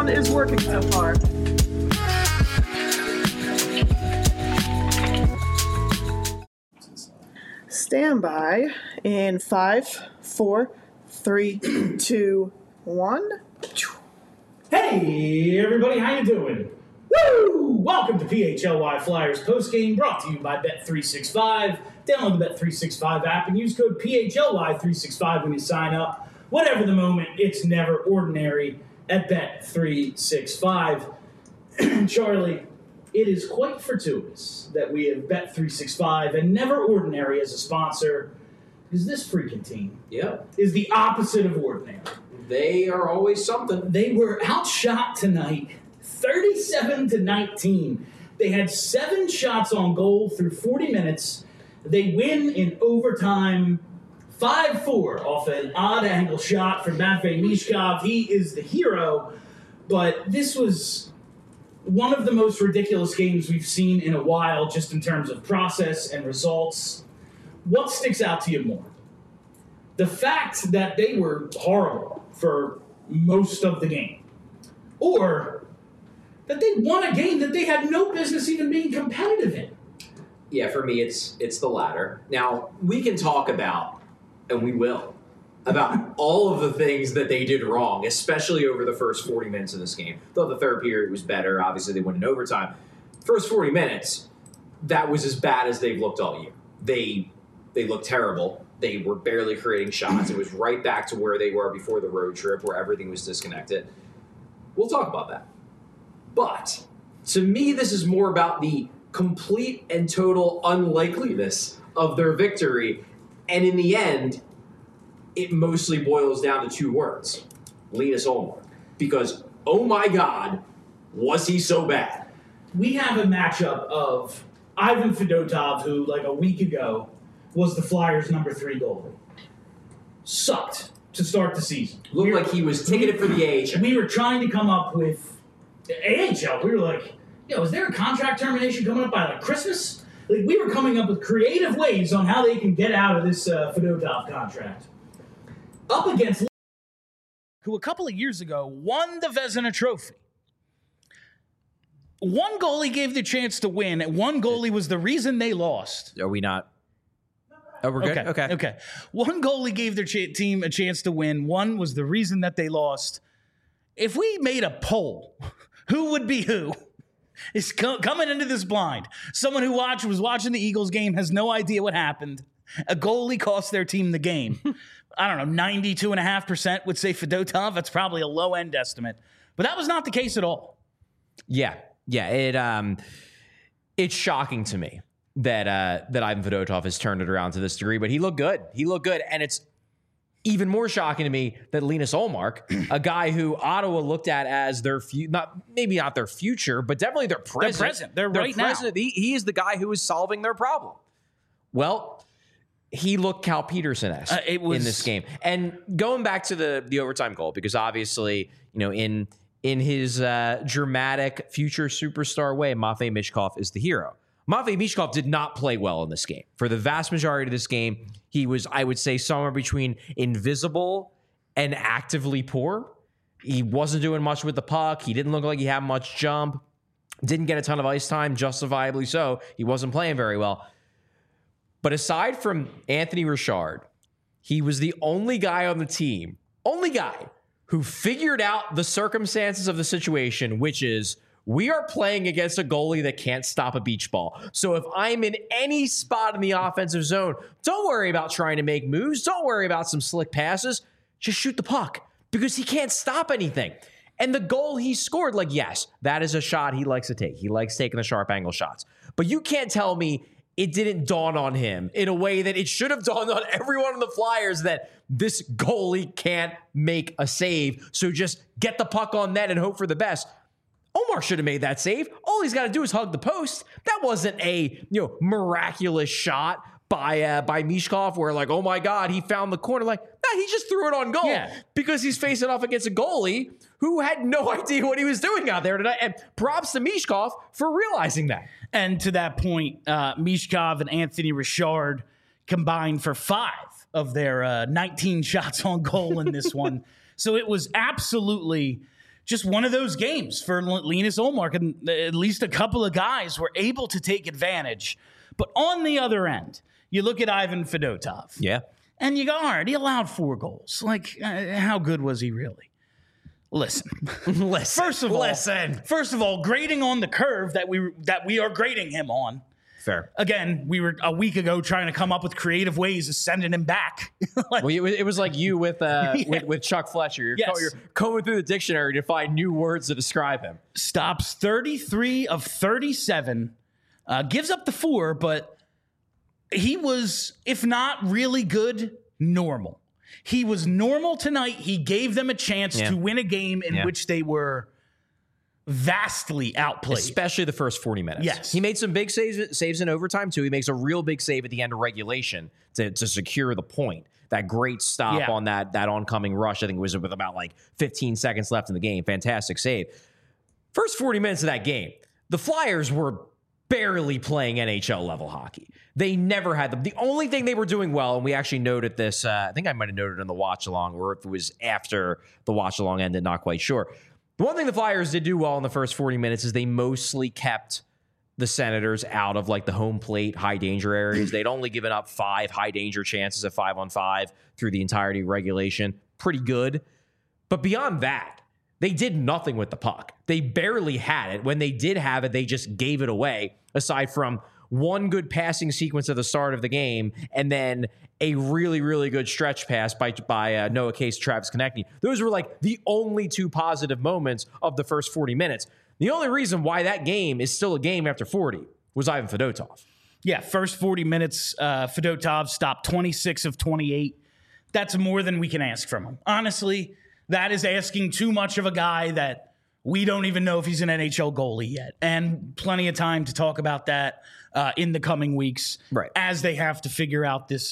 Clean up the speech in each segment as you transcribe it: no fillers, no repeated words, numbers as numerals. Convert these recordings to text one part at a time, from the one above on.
sound is working so far. Stand by in 5, 4, 3, 2, 1. Hey, everybody, how you doing? Woo! Welcome to PHLY Flyers postgame, brought to you by Bet365. Download the Bet365 app and use code PHLY365 when you sign up. Whatever the moment, it's never ordinary at Bet365. Charlie, it is quite fortuitous that we have Bet365 and Never Ordinary as a sponsor, because this freaking team is the opposite of ordinary. They are always something. They were outshot tonight, 37-19. They had 7 shots on goal through 40 minutes. They win in overtime 5-4 off an odd angle shot from Matvei Michkov. He is the hero, but this was one of the most ridiculous games we've seen in a while, just in terms of process and results. What sticks out to you more? The fact that they were horrible for most of the game, or that they won a game that they had no business even being competitive in? Yeah, for me, it's the latter. Now, we can talk about, and we will, about all of the things that they did wrong, especially over the first 40 minutes of this game. Though the third period was better. Obviously, they went in overtime. First 40 minutes, that was as bad as they've looked all year. They looked terrible. They were barely creating shots. It was right back to where they were before the road trip, where everything was disconnected. We'll talk about that. But to me, this is more about the complete and total unlikeliness of their victory. And in the end, it mostly boils down to 2 words: Linus Ullmark. Because, oh my God, was he so bad? We have a matchup of Ivan Fedotov, who, like a week ago, was the Flyers' number 3 goalie. Sucked to start the season. Looked like he was taking it for the AHL. We were trying to come up with the AHL. We were like, is there a contract termination coming up by like Christmas? Like, we were coming up with creative ways on how they can get out of this Fedotov contract. Up against who a couple of years ago won the Vezina Trophy. One goalie gave the chance to win, and one goalie was the reason they lost. Are we not? Oh, we're good? Okay. One goalie gave their team a chance to win. One was the reason that they lost. If we made a poll, who would be who is coming into this blind? Someone who was watching the Eagles game, has no idea what happened. A goalie cost their team the game. I don't know, 92.5% would say Fedotov. That's probably a low-end estimate. But that was not the case at all. Yeah. It's shocking to me that Ivan Fedotov has turned it around to this degree, but he looked good. And it's even more shocking to me that Linus Ullmark, a guy who Ottawa looked at as their maybe not their future, but definitely their present. They're right present. Now. He is the guy who is solving their problem. Well, he looked Cal Peterson-esque in this game. And going back to the overtime goal, because obviously, in his dramatic future superstar way, Matvei Michkov is the hero. Matvei Michkov did not play well in this game. For the vast majority of this game, he was, I would say, somewhere between invisible and actively poor. He wasn't doing much with the puck. He didn't look like he had much jump. Didn't get a ton of ice time, justifiably so. He wasn't playing very well. But aside from Anthony Richard, he was the only guy on the team, who figured out the circumstances of the situation, which is, we are playing against a goalie that can't stop a beach ball. So if I'm in any spot in the offensive zone, don't worry about trying to make moves. Don't worry about some slick passes. Just shoot the puck, because he can't stop anything. And the goal he scored, yes, that is a shot he likes to take. He likes taking the sharp angle shots. But you can't tell me it didn't dawn on him in a way that it should have dawned on everyone on the Flyers that this goalie can't make a save. So just get the puck on net and hope for the best. Ullmark should have made that save. All he's got to do is hug the post. That wasn't a miraculous shot by Michkov where oh my God, he found the corner. He just threw it on goal because he's facing off against a goalie who had no idea what he was doing out there tonight. And props to Michkov for realizing that. And to that point, Michkov and Anthony Richard combined for 5 of their 19 shots on goal in this one. So it was absolutely just one of those games for Linus Ullmark, and at least a couple of guys were able to take advantage. But on the other end, you look at Ivan Fedotov. Yeah. And you go, all right, he allowed 4 goals. Like, how good was he really? Listen. First of all, grading on the curve that we are grading him on. Fair. Again, we were a week ago trying to come up with creative ways of sending him back. Well, it was like you with Chuck Fletcher. You're combing through the dictionary to find new words to describe him. Stops 33 of 37, gives up the 4, but he was, if not really good, normal. He was normal tonight. He gave them a chance to win a game in which they were vastly outplayed. Especially the first 40 minutes. Yes. He made some big saves in overtime, too. He makes a real big save at the end of regulation to secure the point. That great stop on that oncoming rush, I think it was with about 15 seconds left in the game. Fantastic save. First 40 minutes of that game, the Flyers were barely playing NHL level hockey. They never had them. The only thing they were doing well, and we actually noted this, I think I might have noted in the watch along, or if it was after the watch along ended, not quite sure. The one thing the Flyers did do well in the first 40 minutes is they mostly kept the Senators out of the home plate, high danger areas. They'd only given up 5 high danger chances at 5-on-5 through the entirety of regulation. Pretty good. But beyond that, they did nothing with the puck. They barely had it. When they did have it, they just gave it away, aside from one good passing sequence at the start of the game and then a really, really good stretch pass by Noah Case, Travis Konecny. Those were the only 2 positive moments of the first 40 minutes. The only reason why that game is still a game after 40 was Ivan Fedotov. Yeah, first 40 minutes, Fedotov stopped 26 of 28. That's more than we can ask from him. Honestly, that is asking too much of a guy that we don't even know if he's an NHL goalie yet. And plenty of time to talk about that in the coming weeks as they have to figure out this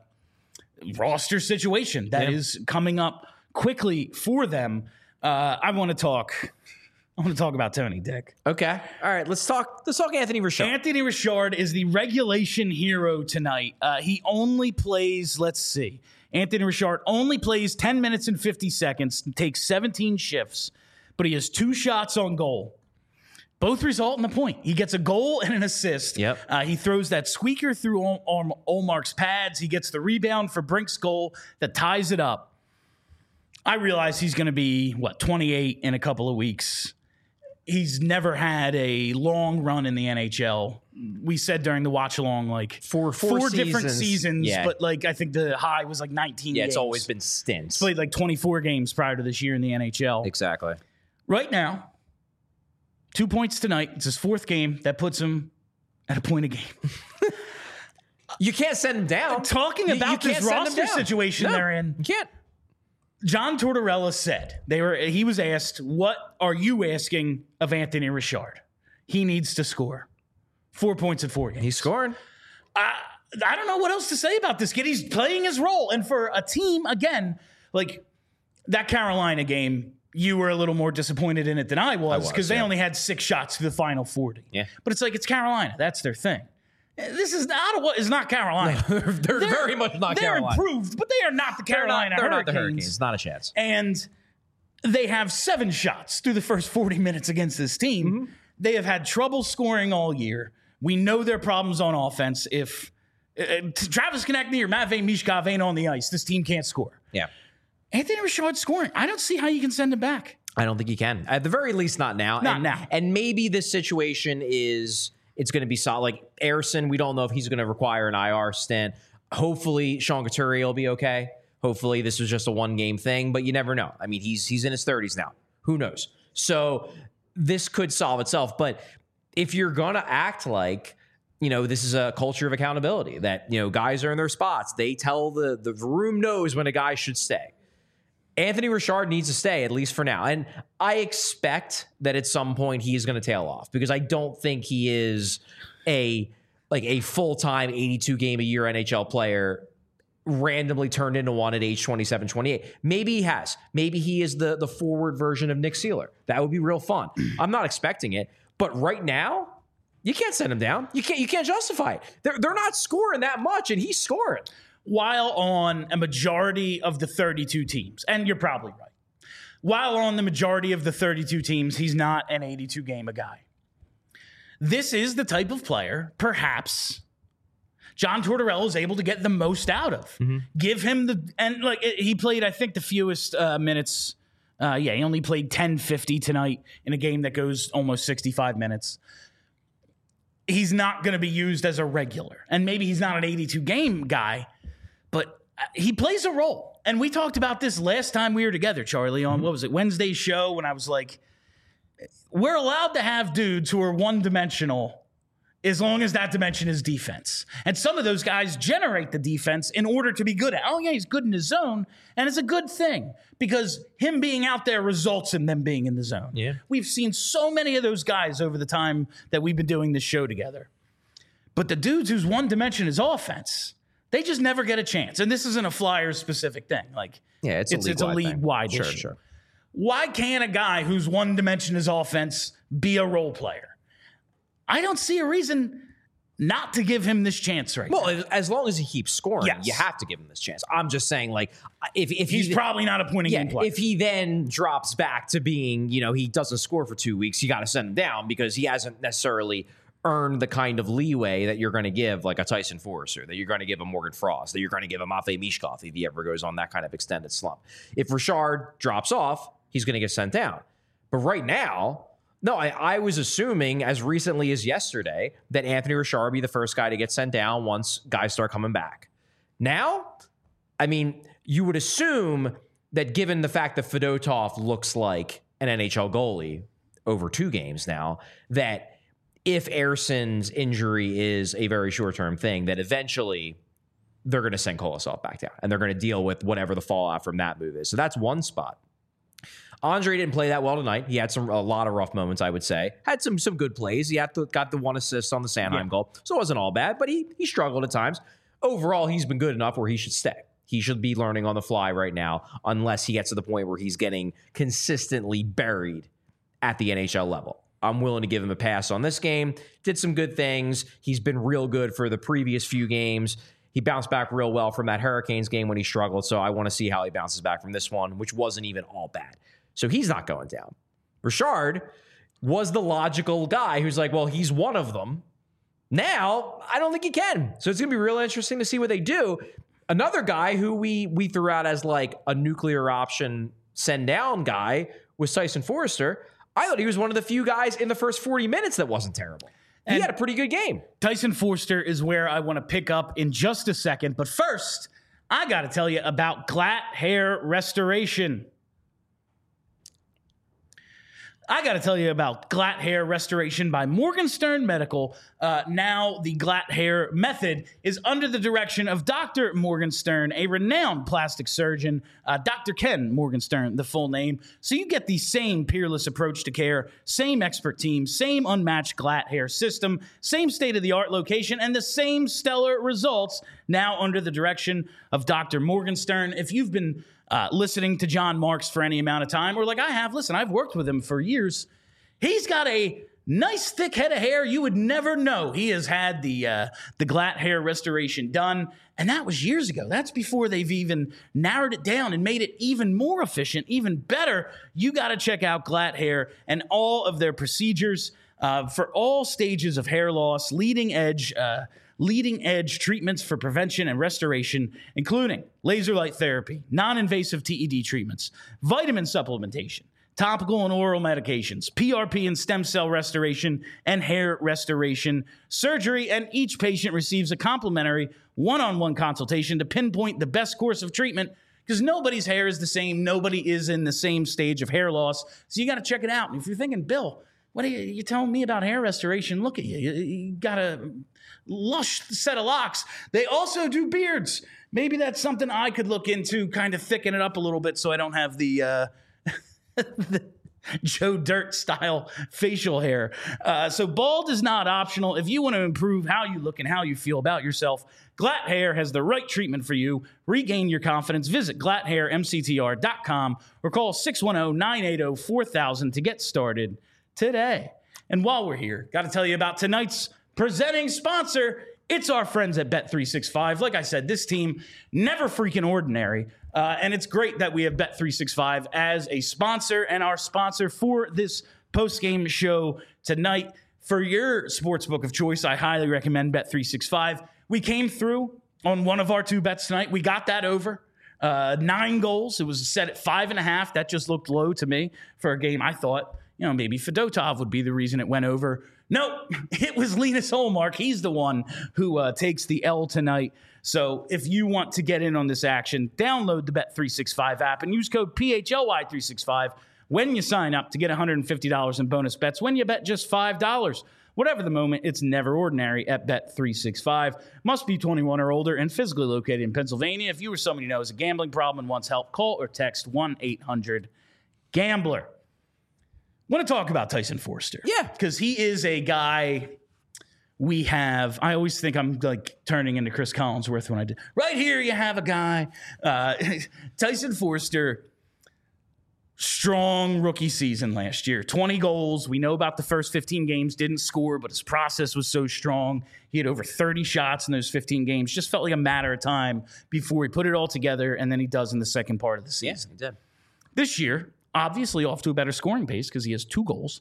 roster situation that is coming up quickly for them. I want to talk about Tony, Dick. Okay. All right. Let's talk Anthony Richard. Anthony Richard is the regulation hero tonight. He only plays, Anthony Richard only plays 10 minutes and 50 seconds, takes 17 shifts, but he has 2 shots on goal. Both result in a point. He gets a goal and an assist. Yep. He throws that squeaker through Ullmark's pads. He gets the rebound for Brink's goal that ties it up. I realize he's going to be, 28 in a couple of weeks. He's never had a long run in the NHL. We said during the watch along, four different seasons, but I think the high was 19 games. It's always been stints. He's played 24 games prior to this year in the NHL. Exactly. Right now, 2 points tonight. It's his 4th game. That puts him at a point a game. You can't send him down. Talking about this roster situation they're in. You can't. John Tortorella said he was asked, what are you asking of Anthony Richard? He needs to score 4 points in 4 games. He's scoring. I don't know what else to say about this kid. He's playing his role. And for a team, again, that Carolina game, you were a little more disappointed in it than I was because they only had 6 shots to the final 40. Yeah. But it's Carolina. That's their thing. This is Ottawa is not Carolina. No, they're very much not Carolina. They're improved, but they are not the Carolina Hurricanes. They're not the Hurricanes. Not a chance. And they have 7 shots through the first 40 minutes against this team. Mm-hmm. They have had trouble scoring all year. We know their problems on offense. If Travis Konecny or Matvei Michkov ain't on the ice, this team can't score. Yeah. Anthony Richard scoring. I don't see how you can send him back. I don't think you can. At the very least, not now. Now. And maybe this situation is it's going to be solid. Ersson, we don't know if he's going to require an IR stint. Hopefully, Sean Couturier will be okay. Hopefully, this was just a one-game thing, but you never know. I mean, he's in his 30s now. Who knows? So this could solve itself. But if you're going to act like, this is a culture of accountability, that, guys are in their spots. They tell the room knows when a guy should stay. Anthony Richard needs to stay, at least for now. And I expect that at some point he is going to tail off because I don't think he is a full-time 82-game-a-year NHL player randomly turned into one at age 27, 28. Maybe he has. Maybe he is the forward version of Nick Seeler. That would be real fun. I'm not expecting it. But right now, you can't send him down. You can't justify it. They're not scoring that much, and he's scoring. While on a majority of the 32 teams, and you're probably right, while on the majority of the 32 teams, he's not an 82 game a guy. This is the type of player, perhaps, John Tortorella is able to get the most out of. Give him he played, I think, the fewest minutes. He only played 10:50 tonight in a game that goes almost 65 minutes. He's not going to be used as a regular. And maybe he's not an 82 game guy, but he plays a role. And we talked about this last time we were together, Charlie, on what was it, Wednesday's show, when I was like, we're allowed to have dudes who are one-dimensional as long as that dimension is defense. And some of those guys generate the defense in order to be good at. Oh, yeah, he's good in his zone, and it's a good thing because him being out there results in them being in the zone. Yeah. We've seen so many of those guys over the time that we've been doing this show together. But the dudes whose one dimension is offense, they just never get a chance. And this isn't a Flyers-specific thing. It's a league-wide issue. Sure. Why can't a guy whose one dimension is offense be a role player? I don't see a reason not to give him this chance now. Well, as long as he keeps scoring, Yes. you have to give him this chance. I'm just saying, if he's probably not a point-a-game player. If he then drops back to being, he doesn't score for 2 weeks, you got to send him down because he hasn't necessarily earned the kind of leeway that you're going to give like a Tyson Forrester, that you're going to give a Morgan Frost, that you're going to give a Matvei Mishkov if he ever goes on that kind of extended slump. If Richard drops off, he's going to get sent down. But right now, no, I was assuming as recently as yesterday that Anthony Richard would be the first guy to get sent down once guys start coming back. Now, you would assume that given the fact that Fedotov looks like an NHL goalie over 2 games now, that if Erson's injury is a very short-term thing, that eventually they're going to send Kolosov back down and they're going to deal with whatever the fallout from that move is. So that's one spot. Andre didn't play that well tonight. He had a lot of rough moments, I would say. Had some good plays. He got the 1 assist on the Sanheim goal. So it wasn't all bad, but he struggled at times. Overall, he's been good enough where he should stay. He should be learning on the fly right now, unless he gets to the point where he's getting consistently buried at the NHL level. I'm willing to give him a pass on this game. Did some good things. He's been real good for the previous few games. He bounced back real well from that Hurricanes game when he struggled, so I want to see how he bounces back from this one, which wasn't even all bad. So he's not going down. Richard was the logical guy who's like, well, he's one of them. Now, I don't think he can. So it's going to be real interesting to see what they do. Another guy who we threw out as like a nuclear option send down guy was Tyson Forrester. I thought he was one of the few guys in the first 40 minutes that wasn't terrible. He had a pretty good game. Tyson Forrester is where I want to pick up in just a second. But first, I got to tell you about Glatt Hair Restoration. I got to tell you about Glatt Hair Restoration by Morgenstern Medical. Now the Glatt Hair method is under the direction of Dr. Morgenstern, a renowned plastic surgeon, Dr. Ken Morgenstern, the full name. So you get the same peerless approach to care, same expert team, same unmatched Glatt Hair system, same state-of-the-art location, and the same stellar results now under the direction of Dr. Morgenstern. If you've been listening to John Marks for any amount of time, or like I have, listen, I've worked with him for years. He's got a nice thick head of hair. You would never know he has had the Glatt Hair Restoration done, and that was years ago. That's before they've even narrowed it down and made it even more efficient, even better. You got to check out Glatt Hair and all of their procedures for all stages of hair loss, leading edge treatments for prevention and restoration, including laser light therapy, non-invasive TED treatments, vitamin supplementation, topical and oral medications, PRP and stem cell restoration, and hair restoration surgery. And each patient receives a complimentary one-on-one consultation to pinpoint the best course of treatment, because nobody's hair is the same. Nobody is in the same stage of hair loss. So you got to check it out. And if you're thinking, Bill, what are you telling me about hair restoration? Look at you. You got a lush set of locks. They also do beards. Maybe that's something I could look into, kind of thicken it up a little bit so I don't have the Joe Dirt style facial hair. So bald is not optional. If you want to improve how you look and how you feel about yourself, Glatt Hair has the right treatment for you. Regain your confidence. Visit glatthairmctr.com or call 610-980-4000 to get started today. And while we're here, got to tell you about tonight's presenting sponsor. It's our friends at Bet365. Like I said, this team, never freaking ordinary. And it's great that we have Bet365 as a sponsor and our sponsor for this post-game show tonight. For your sportsbook of choice, I highly recommend Bet365. We came through on one of our 2 bets tonight. We got that over. 9 goals. It was set at 5.5. That just looked low to me for a game. I thought, maybe Fedotov would be the reason it went over. Nope, it was Linus Ullmark. He's the one who takes the L tonight. So if you want to get in on this action, download the Bet365 app and use code PHLY365 when you sign up to get $150 in bonus bets when you bet just $5. Whatever the moment, it's never ordinary at Bet365. Must be 21 or older and physically located in Pennsylvania. If you or someone you know has a gambling problem and wants help, call or text 1-800-GAMBLER. I want to talk about Tyson Foerster. Yeah. Because he is a guy we have. I always think I'm like turning into Chris Collinsworth when I do. Right here you have a guy. Tyson Foerster, strong rookie season last year. 20 goals. We know about the first 15 games. Didn't score, but his process was so strong. He had over 30 shots in those 15 games. Just felt like a matter of time before he put it all together, and then he does in the second part of the season. Yeah, he did. This year, obviously off to a better scoring pace because he has 2 goals.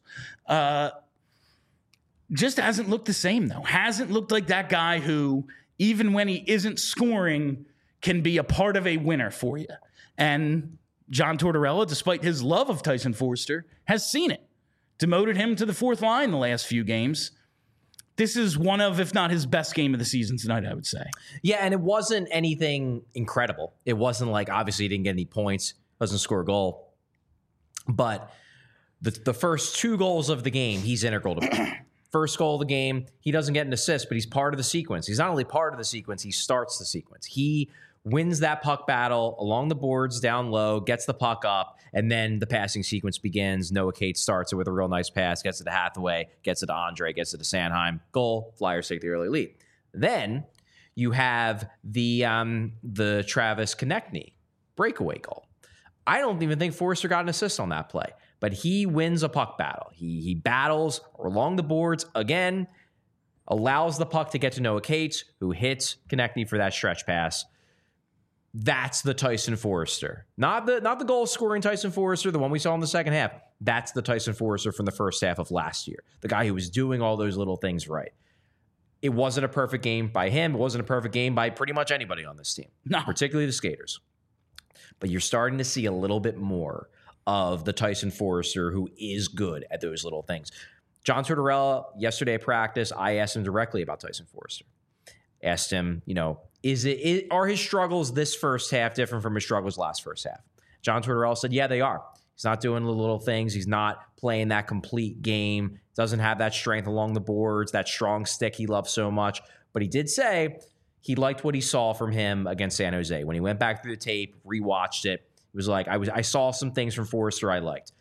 Just hasn't looked the same, though. Hasn't looked like that guy who, even when he isn't scoring, can be a part of a winner for you. And John Tortorella, despite his love of Tyson Foerster, has seen it. Demoted him to the 4th line the last few games. This is one of, if not his best game of the season tonight, I would say. Yeah, and it wasn't anything incredible. It wasn't like, obviously, he didn't get any points, doesn't score a goal. But the first 2 goals of the game, he's integral to. First goal of the game, he doesn't get an assist, but he's part of the sequence. He's not only part of the sequence, he starts the sequence. He wins that puck battle along the boards, down low, gets the puck up, and then the passing sequence begins. Noah Cates starts it with a real nice pass, gets it to Hathaway, gets it to Andre, gets it to Sanheim. Goal, Flyers take the early lead. Then you have the Travis Konechny breakaway goal. I don't even think Foerster got an assist on that play, but he wins a puck battle. He battles along the boards again, allows the puck to get to Noah Cates, who hits Konechny for that stretch pass. That's the Tyson Foerster. Not the goal-scoring Tyson Foerster, the one we saw in the second half. That's the Tyson Foerster from the first half of last year. The guy who was doing all those little things right. It wasn't a perfect game by him. It wasn't a perfect game by pretty much anybody on this team, particularly the skaters. But you're starting to see a little bit more of the Tyson Foerster who is good at those little things. John Tortorella, yesterday at practice, I asked him directly about Tyson Foerster. Asked him, are his struggles this first half different from his struggles last first half? John Tortorella said, yeah, they are. He's not doing the little things. He's not playing that complete game. Doesn't have that strength along the boards, that strong stick he loves so much. But he did say he liked what he saw from him against San Jose. When he went back through the tape, rewatched it, it was like, I saw some things from Foerster I liked.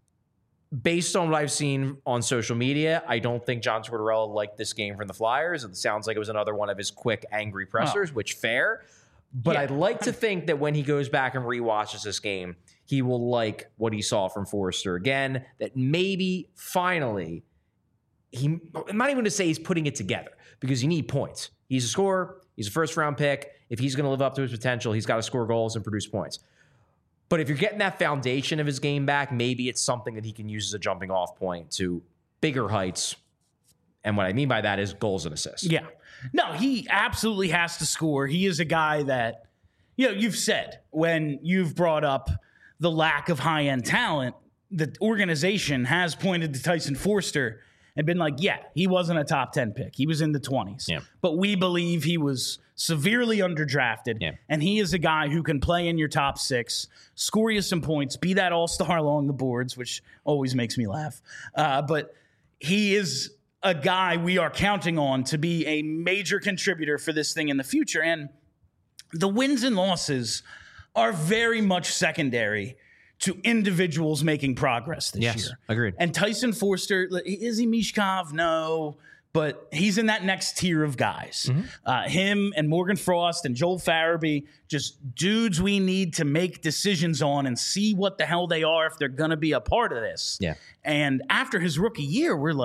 Based on what I've seen on social media, I don't think John Tortorella liked this game from the Flyers. It sounds like it was another one of his quick, angry pressers, which fair. But yeah. I'd like to think that when he goes back and rewatches this game, he will like what he saw from Foerster again, that maybe finally, I'm not even going to say he's putting it together because you need points. He's a scorer. He's a first-round pick. If he's going to live up to his potential, he's got to score goals and produce points. But if you're getting that foundation of his game back, maybe it's something that he can use as a jumping off point to bigger heights. And what I mean by that is goals and assists. Yeah. No, he absolutely has to score. He is a guy that, you've said when you've brought up the lack of high-end talent, the organization has pointed to Tyson Foerster and been like, yeah, he wasn't a top 10 pick. He was in the 20s. Yeah. But we believe he was severely underdrafted. Yeah. And he is a guy who can play in your top 6, score you some points, be that all-star along the boards, which always makes me laugh. But he is a guy we are counting on to be a major contributor for this thing in the future. And the wins and losses are very much secondary to individuals making progress this year. Agreed. And Tyson Foerster, is he Mishkov? No, but he's in that next tier of guys. Mm-hmm. Him and Morgan Frost and Joel Farabee, just dudes we need to make decisions on and see what the hell they are if they're going to be a part of this. Yeah. And after his rookie year, we're like,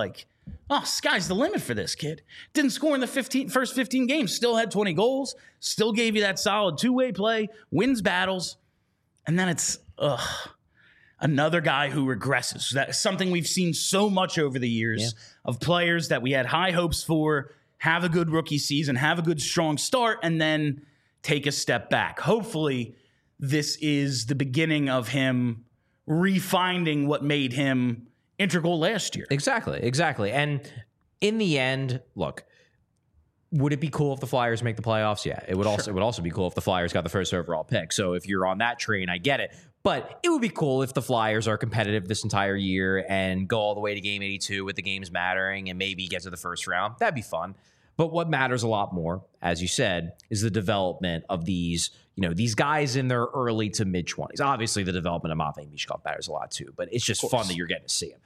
oh, sky's the limit for this kid. Didn't score in the first 15 games, still had 20 goals, still gave you that solid two-way play, wins battles, and then it's another guy who regresses. That's something we've seen so much over the years of players that we had high hopes for, have a good rookie season, have a good strong start, and then take a step back. Hopefully, this is the beginning of him refinding what made him integral last year. Exactly. And in the end, look, would it be cool if the Flyers make the playoffs? Yeah, it would. It would also be cool if the Flyers got the first overall pick. So if you're on that train, I get it. But it would be cool if the Flyers are competitive this entire year and go all the way to game 82 with the games mattering and maybe get to the first round. That'd be fun. But what matters a lot more, as you said, is the development of these guys in their early to mid 20s. Obviously, the development of Matvei Michkov matters a lot too, but it's just fun that you're getting to see him.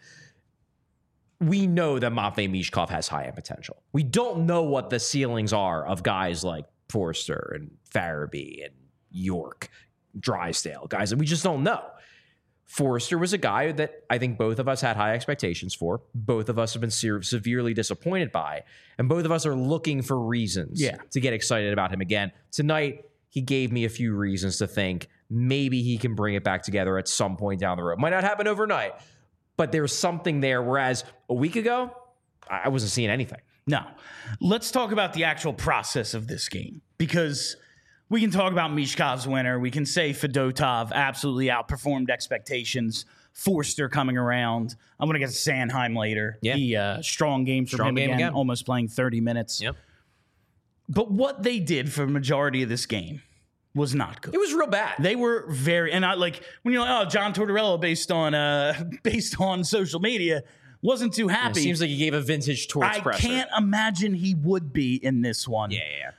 We know that Matvei Michkov has high end potential. We don't know what the ceilings are of guys like Forster and Farabee and York, Drysdale, guys that we just don't know. Forster was a guy that I think both of us had high expectations for. Both of us have been severely disappointed by, and both of us are looking for reasons to get excited about him again. Tonight, he gave me a few reasons to think maybe he can bring it back together at some point down the road. Might not happen overnight, but there's something there, whereas a week ago, I wasn't seeing anything. No. Let's talk about the actual process of this game, because we can talk about Michkov's winner. We can say Fedotov absolutely outperformed expectations. Forster coming around. I'm going to get to Sanheim later. Yeah. Strong game for him again, almost playing 30 minutes. Yep. But what they did for the majority of this game was not good. It was real bad. They were very, and I like when you're like, oh, John Tortorella based on social media, wasn't too happy. It seems like he gave a vintage Torts presser. I can't imagine he would be in this one.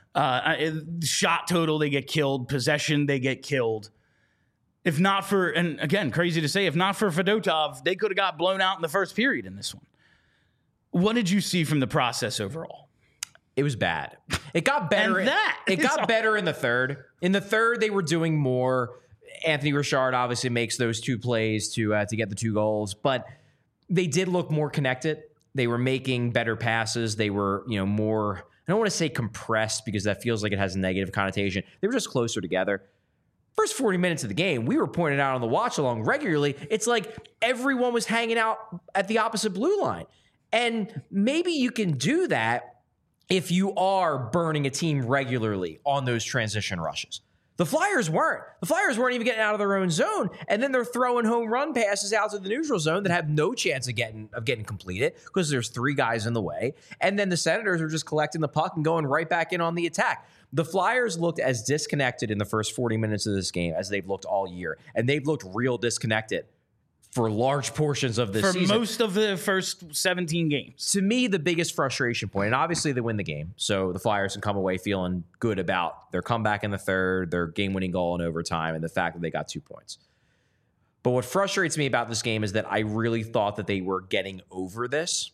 Shot total, they get killed. Possession, they get killed. If not for, and again, crazy to say, if not for Fedotov, they could have got blown out in the first period in this one. What did you see from the process overall? It was bad. It got better. It got better in the third. In the third, they were doing more. Anthony Richard obviously makes those two plays to get the 2 goals, but they did look more connected. They were making better passes. They were, more, I don't want to say compressed because that feels like it has a negative connotation. They were just closer together. First 40 minutes of the game, we were pointing out on the watch along regularly, it's like everyone was hanging out at the opposite blue line. And maybe you can do that if you are burning a team regularly on those transition rushes. The Flyers weren't. The Flyers weren't even getting out of their own zone, and then they're throwing home run passes out to the neutral zone that have no chance of getting completed because there's 3 guys in the way. And then the Senators are just collecting the puck and going right back in on the attack. The Flyers looked as disconnected in the first 40 minutes of this game as they've looked all year, and they've looked real disconnected for large portions of this season. For most of the first 17 games. To me, the biggest frustration point, and obviously they win the game, so the Flyers can come away feeling good about their comeback in the third, their game-winning goal in overtime, and the fact that they got 2 points. But what frustrates me about this game is that I really thought that they were getting over this.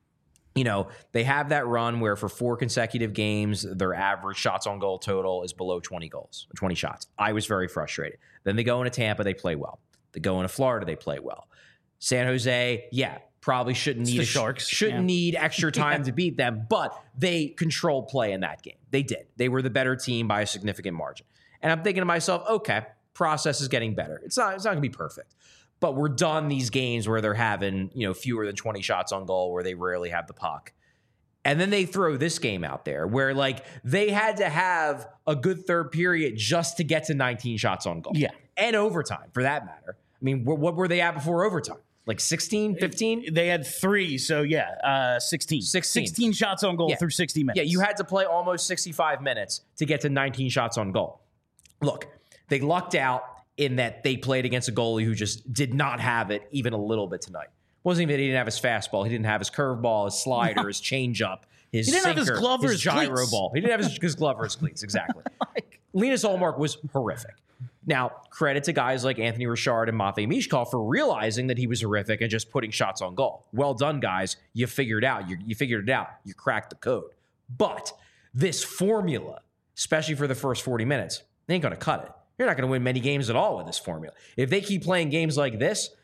They have that run where for 4 consecutive games, their average shots on goal total is below 20 goals, 20 shots. I was very frustrated. Then they go into Tampa, they play well. They go into Florida, they play well. San Jose, probably shouldn't need extra time to beat them, but they controlled play in that game. They did. They were the better team by a significant margin. And I'm thinking to myself, okay, process is getting better. It's not going to be perfect, but we're done these games where they're having, fewer than 20 shots on goal, where they rarely have the puck. And then they throw this game out there where they had to have a good third period just to get to 19 shots on goal. Yeah. And overtime for that matter. I mean, what were they at before overtime? 16, 15? They had 3, so 16. 16 shots on goal through 60 minutes. Yeah, you had to play almost 65 minutes to get to 19 shots on goal. Look, they lucked out in that they played against a goalie who just did not have it even a little bit tonight. Wasn't even that he didn't have his fastball. He didn't have his curveball, his slider, his changeup, his sinker, have his glove or his his gyro cleats. ball. He didn't have his glove or his cleats, exactly. Linus Ullmark was horrific. Now, credit to guys like Anthony Richard and Matvei Michkov for realizing that he was horrific and just putting shots on goal. Well done, guys. You figured it out. You figured it out. You cracked the code. But this formula, especially for the first 40 minutes, they ain't going to cut it. You're not going to win many games at all with this formula. If they keep playing games like this,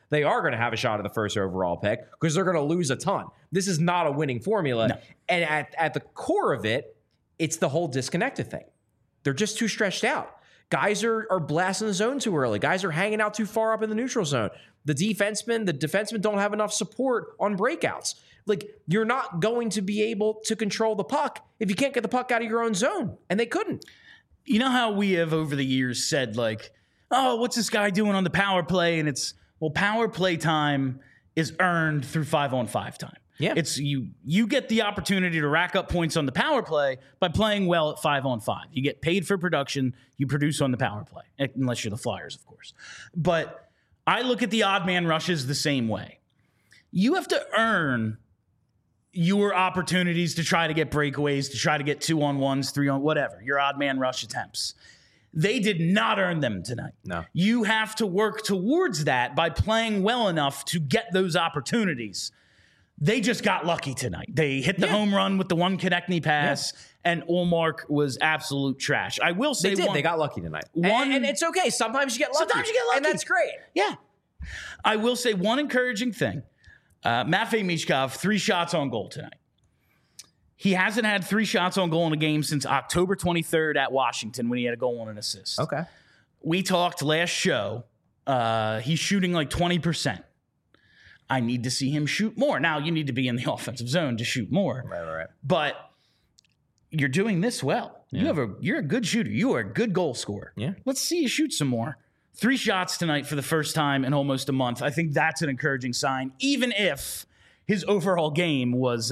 they are going to have a shot at the first overall pick because they're going to lose a ton. This is not a winning formula. No. And at the core of it, it's the whole disconnected thing. They're just too stretched out. Guys are blasting the zone too early. Guys are hanging out too far up in the neutral zone. The defensemen don't have enough support on breakouts. Like, you're not going to be able to control the puck if you can't get the puck out of your own zone. And they couldn't. You know how we have over the years said, like, oh, what's this guy doing on the power play? And it's, well, power play time is earned through 5-on-5 time. Yeah. It's you get the opportunity to rack up points on the power play by playing well at 5-on-5. You get paid for production, you produce on the power play, unless you're the Flyers, of course. But I look at the odd man rushes the same way. You have to earn your opportunities to try to get breakaways, to try to get 2-on-1s, 3-on, whatever, your odd man rush attempts. They did not earn them tonight. No. You have to work towards that by playing well enough to get those opportunities. They just got lucky tonight. They hit the home run with the one Konechny pass, and Ullmark was absolute trash. I will say they got lucky tonight. And it's okay. Sometimes you get lucky. And that's great. Yeah. I will say one encouraging thing. Matvei Michkov, 3 shots on goal tonight. He hasn't had 3 shots on goal in a game since October 23rd at Washington when he had a goal and an assist. Okay. We talked last show. He's shooting like 20%. I need to see him shoot more. Now, you need to be in the offensive zone to shoot more. Right. But you're doing this well. Yeah. You're a good shooter. You are a good goal scorer. Yeah. Let's see you shoot some more. 3 shots tonight for the first time in almost a month. I think that's an encouraging sign, even if his overall game was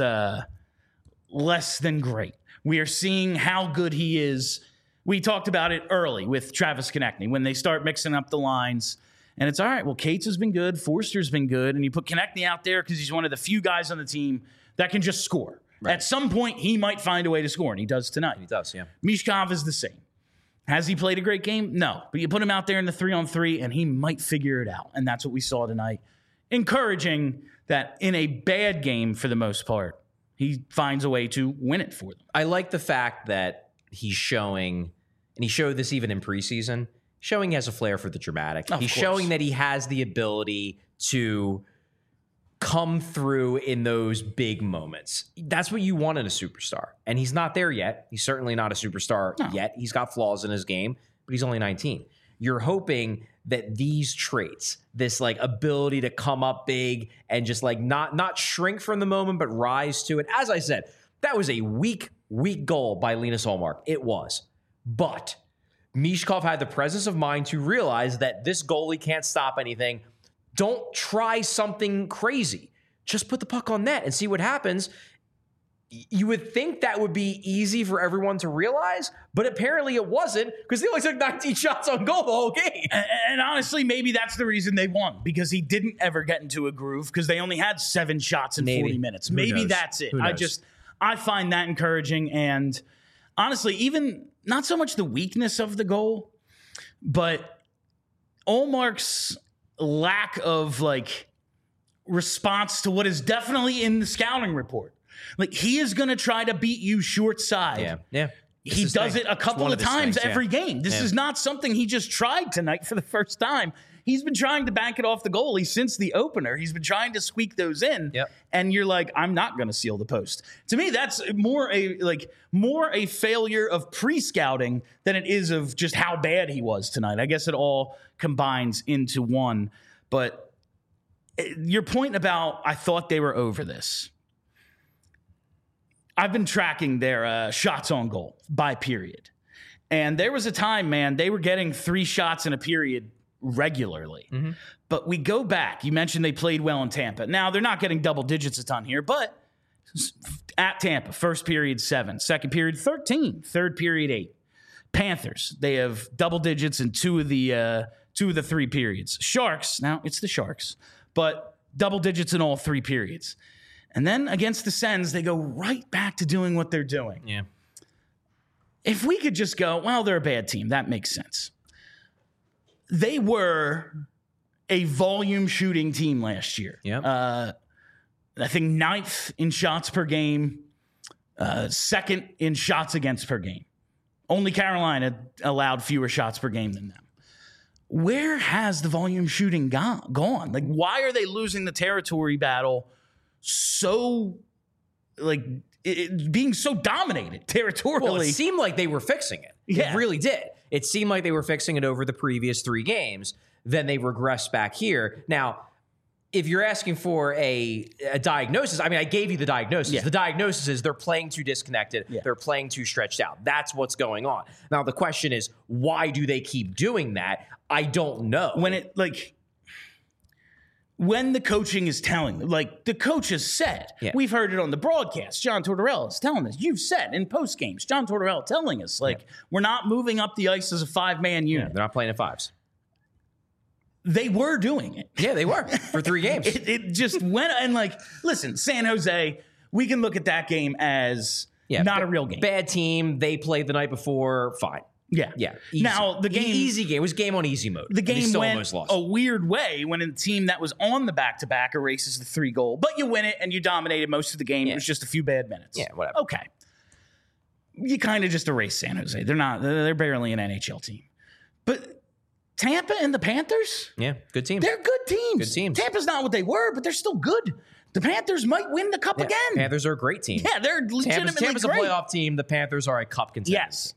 less than great. We are seeing how good he is. We talked about it early with Travis Konechny when they start mixing up the lines. And it's all right. Well, Cates has been good. Forster's been good. And you put Konechny out there because he's one of the few guys on the team that can just score. Right. At some point, he might find a way to score, and he does tonight. He does, yeah. Michkov is the same. Has he played a great game? No. But you put him out there in the 3-on-3, and he might figure it out. And that's what we saw tonight. Encouraging that in a bad game, for the most part, he finds a way to win it for them. I like the fact that he's showing, and he showed this even in preseason, showing he has a flair for the dramatic. He's showing that he has the ability to come through in those big moments. That's what you want in a superstar. And he's not there yet. He's certainly not a superstar yet. He's got flaws in his game, but he's only 19. You're hoping that these traits, this like ability to come up big and just like not shrink from the moment, but rise to it. As I said, that was a weak goal by Linus Ullmark. It was. But Michkov had the presence of mind to realize that this goalie can't stop anything. Don't try something crazy. Just put the puck on net and see what happens. You would think that would be easy for everyone to realize, but apparently it wasn't because they only took 19 shots on goal the whole game. And honestly, maybe that's the reason they won, because he didn't ever get into a groove because they only had 7 shots in 40 minutes. Maybe that's it. I find that encouraging. And honestly, even not so much the weakness of the goal, but Ullmark's lack of like response to what is definitely in the scouting report. Like, he is going to try to beat you short side. Yeah. He does it a couple of times every game. This is not something he just tried tonight for the first time. He's been trying to bank it off the goalie since the opener. He's been trying to squeak those in. Yep. And you're like, I'm not going to seal the post. To me, that's more a failure of pre-scouting than it is of just how bad he was tonight. I guess it all combines into one. But your point about I thought they were over this. I've been tracking their shots on goal by period. And there was a time, man, they were getting 3 shots in a period regularly. Mm-hmm. But we go back. You mentioned they played well in Tampa. Now, they're not getting double digits a ton here, but at Tampa, first period 7, second period 13, third period 8. Panthers, they have double digits in 2 of the 3 periods. Sharks, now it's the Sharks, but double digits in all 3 periods. And then against the Sens, they go right back to doing what they're doing. Yeah. If we could just go, well, they're a bad team. That makes sense. They were a volume shooting team last year. Yeah. I think 9th in shots per game, 2nd in shots against per game. Only Carolina allowed fewer shots per game than them. where has the volume shooting gone? Like, why are they losing the territory battle so, like, being so dominated territorially? Well, it seemed like they were fixing it. Yeah. It really did. It seemed like they were fixing it over the previous 3 games. Then they regressed back here. Now, if you're asking for a diagnosis, I mean, I gave you the diagnosis. Yeah. The diagnosis is they're playing too disconnected. Yeah. They're playing too stretched out. That's what's going on. Now, the question is, why do they keep doing that? I don't know. When the coaching is telling them, like the coach has said, we've heard it on the broadcast. John Tortorella is telling us. You've said in post games, John Tortorella telling us, we're not moving up the ice as a 5-man unit. They're not playing at 5s. They were doing it. Yeah, they were for 3 games. It just went, and listen, San Jose, we can look at that game as not a real game. Bad team. They played the night before. Fine. Yeah. Easy. Now, the game... Easy game. It was game on easy mode. The game still went almost lost. a weird way when a team that was on the back-to-back erases the 3 goal. But you win it, and you dominated most of the game. It was just a few bad minutes. Yeah, whatever. Okay. You kind of just erase San Jose. They're barely an NHL team. But Tampa and the Panthers? Yeah, good teams. They're good teams. Good teams. Tampa's not what they were, but they're still good. The Panthers might win the cup again. Panthers are a great team. Yeah, they're legitimately Tampa's great. a playoff team. The Panthers are a cup contender. Yes.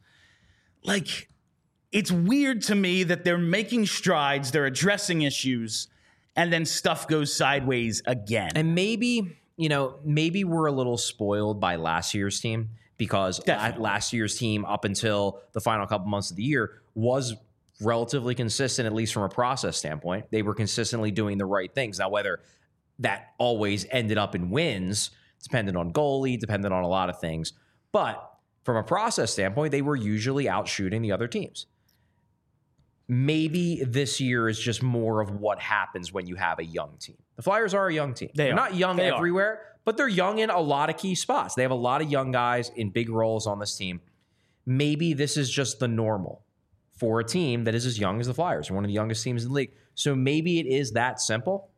It's weird to me that they're making strides, they're addressing issues, and then stuff goes sideways again. And maybe we're a little spoiled by last year's team because last year's team, up until the final couple months of the year, was relatively consistent, at least from a process standpoint. They were consistently doing the right things. Now, whether that always ended up in wins, dependent on goalie, dependent on a lot of things. But from a process standpoint, they were usually out shooting the other teams. Maybe this year is just more of what happens when you have a young team. The Flyers are a young team. They're not young everywhere, but they're young in a lot of key spots. They have a lot of young guys in big roles on this team. Maybe this is just the normal for a team that is as young as the Flyers, one of the youngest teams in the league. So maybe it is that simple.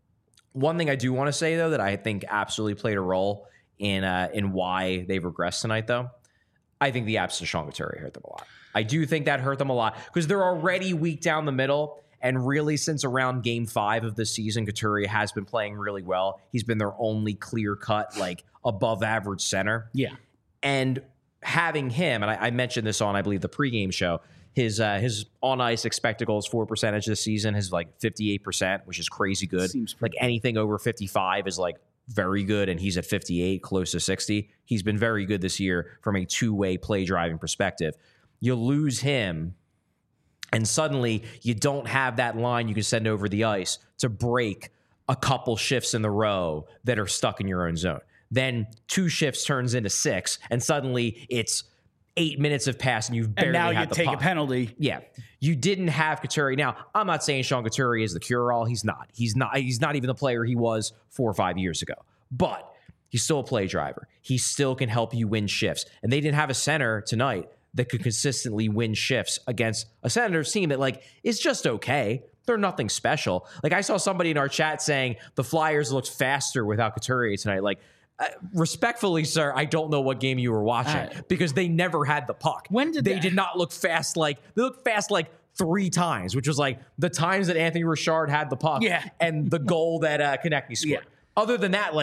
One thing I do want to say, though, that I think absolutely played a role in why they've regressed tonight, though, I think the absence of Sean Couturier hurt them a lot. I do think that hurt them a lot because they're already weak down the middle. And really, since around game 5 of the season, Couturier has been playing really well. He's been their only clear-cut, above average center. Yeah. And having him, and I mentioned this on, I believe, the pregame show, his on-ice expected goals for percentage this season is 58%, which is crazy good. Seems anything over 55 is very good, and he's at 58, close to 60. He's been very good this year from a two-way play driving perspective. You lose him, and suddenly you don't have that line you can send over the ice to break a couple shifts in the row that are stuck in your own zone. Then 2 shifts turns into 6, and suddenly it's 8 minutes have passed and you've barely had the puck. And now you take a penalty. Yeah. You didn't have Couturier. Now, I'm not saying Sean Couturier is the cure-all. He's not. He's not even the player he was 4 or 5 years ago. But he's still a play driver. He still can help you win shifts. And they didn't have a center tonight that could consistently win shifts against a Senators team that is just okay. They're nothing special. I saw somebody in our chat saying the Flyers looked faster without Couturier tonight. Respectfully, sir, I don't know what game you were watching because they never had the puck. When did they did not look fast? They looked fast 3 times, which was the times that Anthony Richard had the puck, and the goal that Konechny scored. Yeah. Other than that,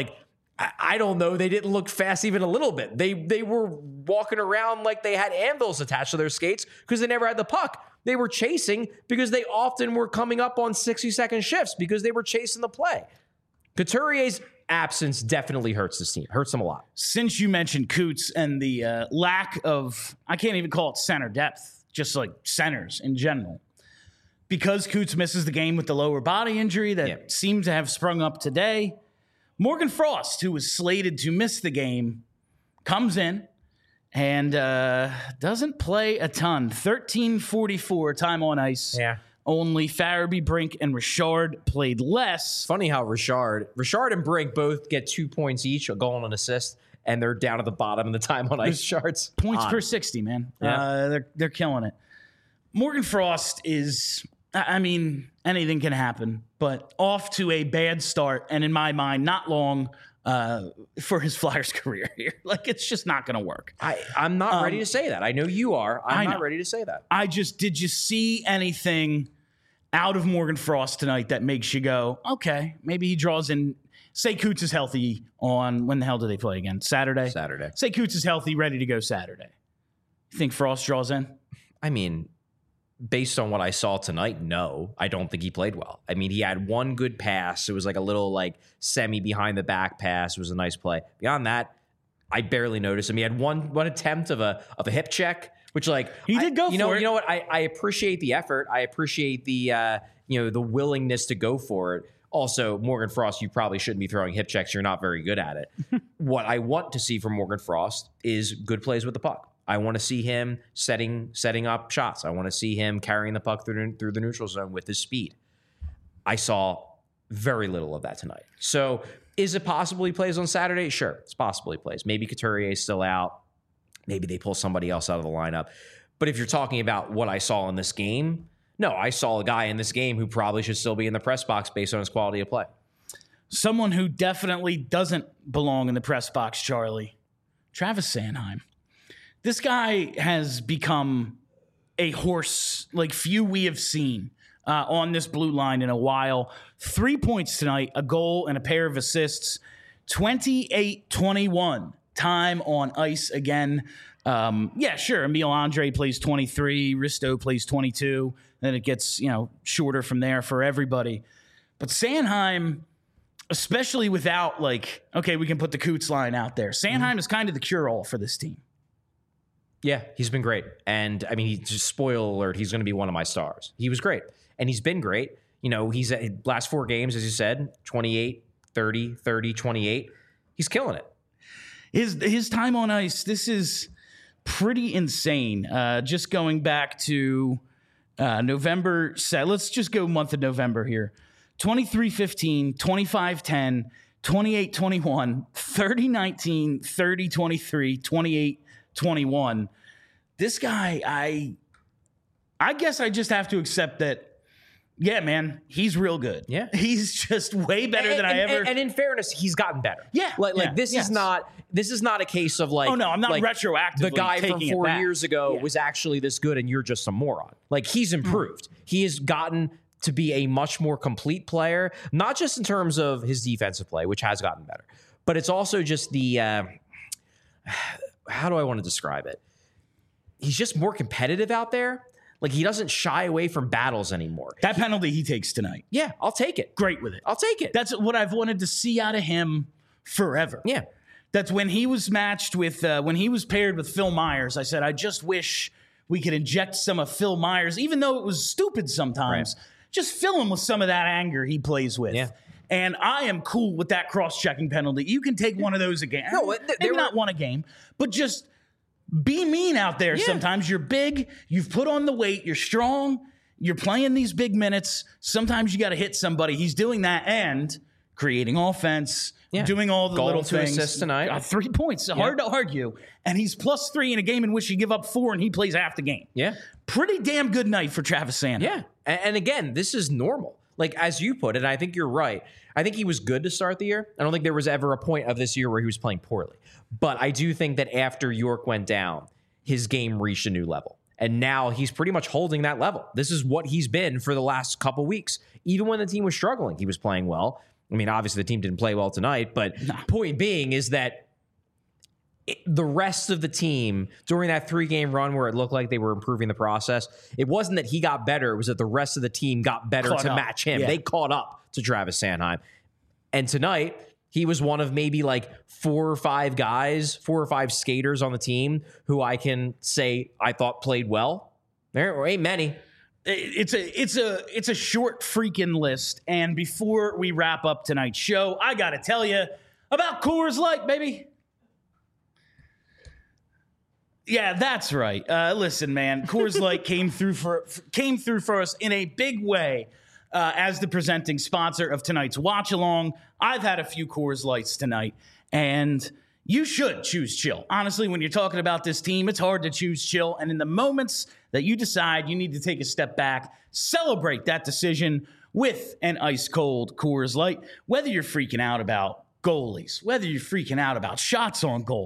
I don't know. They didn't look fast even a little bit. They were walking around like they had anvils attached to their skates because they never had the puck. They were chasing because they often were coming up on 60-second shifts because they were chasing the play. Couturier's absence definitely hurts this team. Hurts them a lot. Since you mentioned Coots and the lack of, I can't even call it center depth, just centers in general. Because Coots misses the game with the lower body injury that seemed to have sprung up today, Morgan Frost, who was slated to miss the game, comes in and doesn't play a ton. 13:44 time on ice. Yeah. Only Farabee, Brink, and Richard played less. Funny how Richard and Brink both get 2 points each, a goal and an assist, and they're down at the bottom of the time on ice charts. Points per 60, man. Yeah. They're killing it. Morgan Frost is, anything can happen, but off to a bad start, and in my mind, not long for his Flyers career here. It's just not going to work. I'm not ready to say that. I know you are. I'm not ready to say that. Did you see anything out of Morgan Frost tonight that makes you go, okay, maybe he draws in. Say Coots is healthy on, when the hell do they play again? Saturday? Saturday. Say Coots is healthy, ready to go Saturday. You think Frost draws in? I mean, based on what I saw tonight, no, I don't think he played well. I mean, he had one good pass. It was like a little like semi behind the back pass. It was a nice play. Beyond that, I barely noticed him. He had one attempt of a hip check, which like he did go for it. You know what? I appreciate the effort. I appreciate the the willingness to go for it. Also, Morgan Frost, you probably shouldn't be throwing hip checks. You're not very good at it. What I want to see from Morgan Frost is good plays with the puck. I want to see him setting up shots. I want to see him carrying the puck through the neutral zone with his speed. I saw very little of that tonight. So is it possible he plays on Saturday? Sure, it's possible he plays. Maybe Couturier is still out. Maybe they pull somebody else out of the lineup. But if you're talking about what I saw in this game, no, I saw a guy in this game who probably should still be in the press box based on his quality of play. Someone who definitely doesn't belong in the press box, Charlie. Travis Sanheim. This guy has become a horse like few we have seen on this blue line in a while. 3 points tonight, a goal and a pair of assists. 28-21 time on ice again. Yeah, sure. Emil Andre plays 23. Risto plays 22. Then it gets, shorter from there for everybody. But Sanheim, especially without we can put the Coots line out there. Sanheim is kind of the cure-all for this team. Yeah, he's been great. And I mean, he's just spoiler alert, he's going to be one of my stars. He was great. And he's been great. He's at last 4 games, as you said, 28, 30, 30, 28. He's killing it. His time on ice, this is pretty insane. Just going back to November, let's just go month of November here. 23-15, 25-10, 28-21, 30-19, 30-23, 28-21. This guy, I guess I just have to accept that, yeah, man, he's real good. Yeah. He's just way better than I ever. And in fairness, he's gotten better. Yeah. This is not a case of like, oh no, I'm not retroactively the guy from taking 4 years ago was actually this good and you're just a moron. Like, he's improved. He has gotten to be a much more complete player, not just in terms of his defensive play, which has gotten better, but it's also just the, how do I want to describe it? He's just more competitive out there. Like, he doesn't shy away from battles anymore. That penalty he takes tonight. Yeah, I'll take it. Great with it. I'll take it. That's what I've wanted to see out of him forever. Yeah. That's when he was matched with, when he was paired with Phil Myers, I said, I just wish we could inject some of Phil Myers, even though it was stupid sometimes, just fill him with some of that anger he plays with. Yeah. And I am cool with that cross-checking penalty. You can take one of those again. No, maybe not one a game, but just be mean out there sometimes. You're big. You've put on the weight. You're strong. You're playing these big minutes. Sometimes you got to hit somebody. He's doing that and creating offense, doing all the little things. Assists tonight. 3 points. Hard to argue. And he's +3 in a game in which you give up 4 and he plays half the game. Yeah. Pretty damn good night for Travis Sanheim. Yeah. And again, this is normal. Like, as you put it, and I think you're right. I think he was good to start the year. I don't think there was ever a point of this year where he was playing poorly. But I do think that after York went down, his game reached a new level. And now he's pretty much holding that level. This is what he's been for the last couple weeks. Even when the team was struggling, he was playing well. I mean, obviously the team didn't play well tonight, but point being is that the rest of the team during that 3-game run where it looked like they were improving the process, it wasn't that he got better. It was that the rest of the team got better to match him. Yeah. They caught up to Travis Sanheim. And tonight, he was one of maybe like 4 or 5 guys, 4 or 5 skaters on the team who I can say I thought played well. There ain't many. It's a short freaking list. And before we wrap up tonight's show, I got to tell you about Coors Light, baby. Yeah, that's right. Listen, man, Coors Light came through for us in a big way as the presenting sponsor of tonight's watch along. I've had a few Coors Lights tonight, and you should choose chill. Honestly, when you're talking about this team, it's hard to choose chill. And in the moments that you decide you need to take a step back, celebrate that decision with an ice cold Coors Light. Whether you're freaking out about goalies, whether you're freaking out about shots on goal,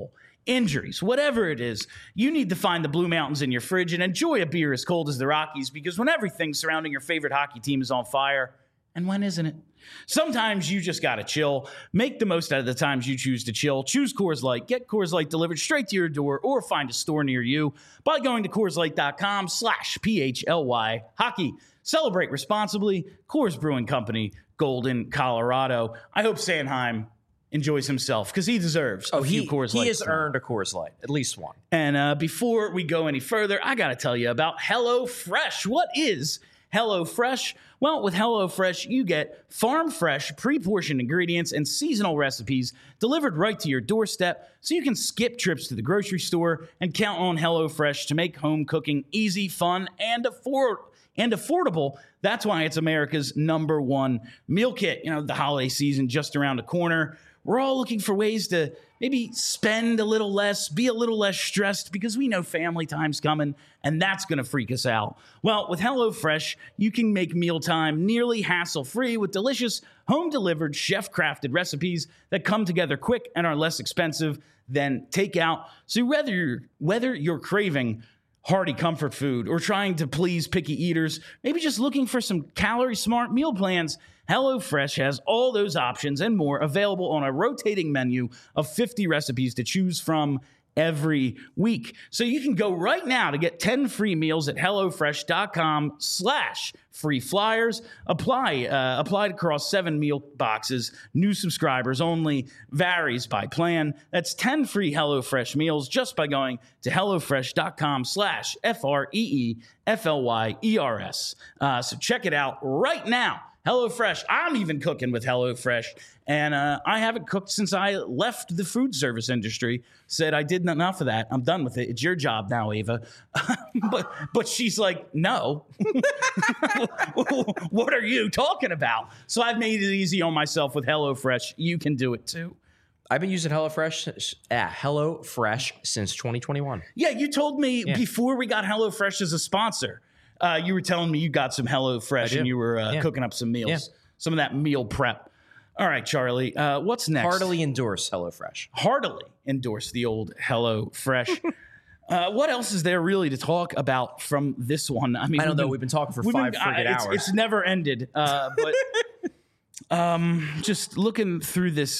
injuries, whatever it is, you need to find the Blue Mountains in your fridge and enjoy a beer as cold as the Rockies, because when everything surrounding your favorite hockey team is on fire, and when isn't it? Sometimes you just gotta chill. Make the most out of the times you choose to chill. Choose Coors Light. Get Coors Light delivered straight to your door or find a store near you by going to CoorsLight.com/PHLY hockey. Celebrate responsibly. Coors Brewing Company, Golden, Colorado. I hope Sanheim enjoys himself because he deserves a few Coors Light. He has earned a Coors Light, at least one. And before we go any further, I got to tell you about HelloFresh. What is HelloFresh? Well, with HelloFresh, you get farm-fresh, pre-portioned ingredients and seasonal recipes delivered right to your doorstep, so you can skip trips to the grocery store and count on HelloFresh to make home cooking easy, fun, and affordable. That's why it's America's #1 meal kit. You know, the holiday season just around the corner. We're all looking for ways to maybe spend a little less, be a little less stressed, because we know family time's coming, and that's going to freak us out. Well, with HelloFresh, you can make mealtime nearly hassle-free with delicious, home-delivered, chef-crafted recipes that come together quick and are less expensive than takeout. So whether you're craving hearty comfort food or trying to please picky eaters, maybe just looking for some calorie-smart meal plans, HelloFresh has all those options and more available on a rotating menu of 50 recipes to choose from every week. So you can go right now to get 10 free meals at HelloFresh.com/free flyers. Applied across 7 meal boxes. New subscribers only. Varies by plan. That's 10 free HelloFresh meals just by going to HelloFresh.com/FREEFLYERS. So check it out right now. HelloFresh. I'm even cooking with HelloFresh, and I haven't cooked since I left the food service industry. Said I did enough of that. I'm done with it. It's your job now, Ava. but she's like, no. What are you talking about? So I've made it easy on myself with HelloFresh. You can do it too. I've been using HelloFresh since 2021. Yeah, you told me before we got HelloFresh as a sponsor. You were telling me you got some HelloFresh and you were cooking up some meals, some of that meal prep. All right, Charlie, what's next? Heartily endorse HelloFresh. Heartily endorse the old HelloFresh. What else is there really to talk about from this one? I mean, I don't know. We've been talking for 5 friggin' hours. It's never ended. But just looking through this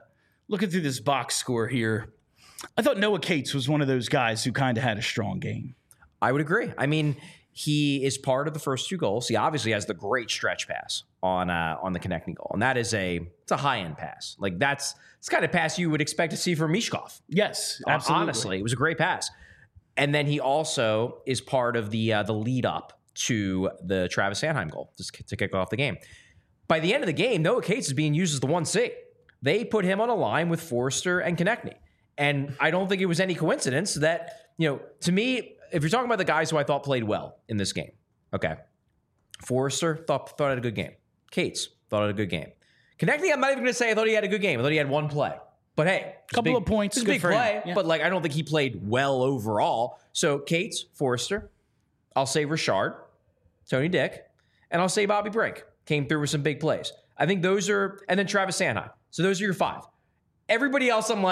box score here, I thought Noah Cates was one of those guys who kind of had a strong game. I would agree. I mean, he is part of the first 2 goals. He obviously has the great stretch pass on the connecting goal, and that is it's a high end pass. Like it's the kind of pass you would expect to see from Mishkov. Yes, absolutely. Honestly, it was a great pass. And then he also is part of the lead up to the Travis Sanheim goal to kick off the game. By the end of the game, Noah Cates is being used as the 1C. They put him on a line with Forrester and Konechny, and I don't think it was any coincidence that, to me, if you're talking about the guys who I thought played well in this game, okay, Forrester thought had a good game. Cates thought had a good game. Konechny, I'm not even going to say I thought he had a good game. I thought he had 1 play. But hey, couple of points. It's a big play, but I don't think he played well overall. So Cates, Forrester, I'll say Richard, Tony Dick, and I'll say Bobby Brink came through with some big plays. I think those are, and then Travis Sanheim. So those are your 5. Everybody else, I'm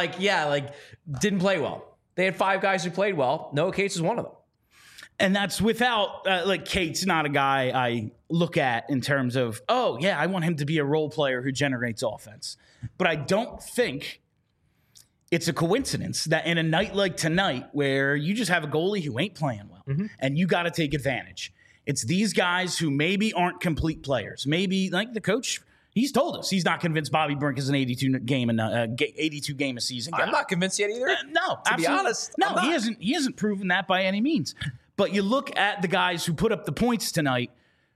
didn't play well. They had 5 guys who played well. Noah Cates is one of them. And that's without, Cates not a guy I look at in terms of, I want him to be a role player who generates offense. But I don't think it's a coincidence that in a night like tonight, where you just have a goalie who ain't playing well, and you got to take advantage, it's these guys who maybe aren't complete players. Maybe, like the coach, he's told us he's not convinced Bobby Brink is an 82 game a season guy. I'm not convinced yet either. No, to be honest, no, he hasn't. He hasn't proven that by any means. But you look at the guys who put up the points tonight: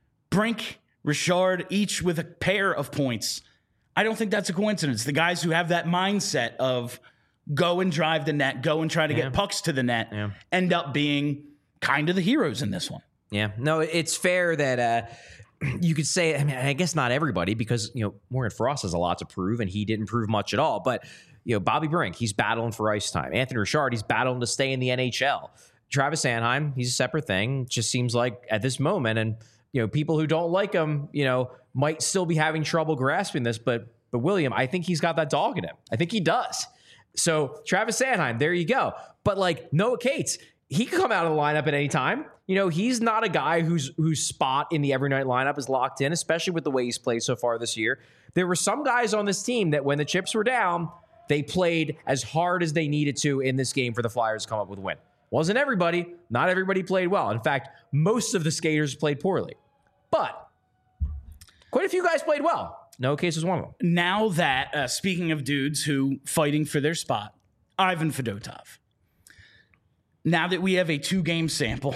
Brink, Richard, each with a pair of points. I don't think that's a coincidence. The guys who have that mindset of go and drive the net, go and try to get pucks to the net, end up being kind of the heroes in this one. Yeah, no, it's fair that. You could say, I guess not everybody, because, Morgan Frost has a lot to prove, and he didn't prove much at all. But, Bobby Brink, he's battling for ice time. Anthony Richard, he's battling to stay in the NHL. Travis Sanheim, he's a separate thing. Just seems like at this moment, and, people who don't like him, might still be having trouble grasping this. But William, I think he's got that dog in him. I think he does. So Travis Sanheim, there you go. But like Noah Cates, he can come out of the lineup at any time. You know, he's not a guy whose spot in the every night lineup is locked in, especially with the way he's played so far this year. There were some guys on this team that when the chips were down, they played as hard as they needed to in this game for the Flyers to come up with a win. Wasn't everybody. Not everybody played well. In fact, most of the skaters played poorly. But quite a few guys played well. Noah Cates was one of them. Now that, speaking of dudes who fighting for their spot, Ivan Fedotov. Now that we have a 2-game sample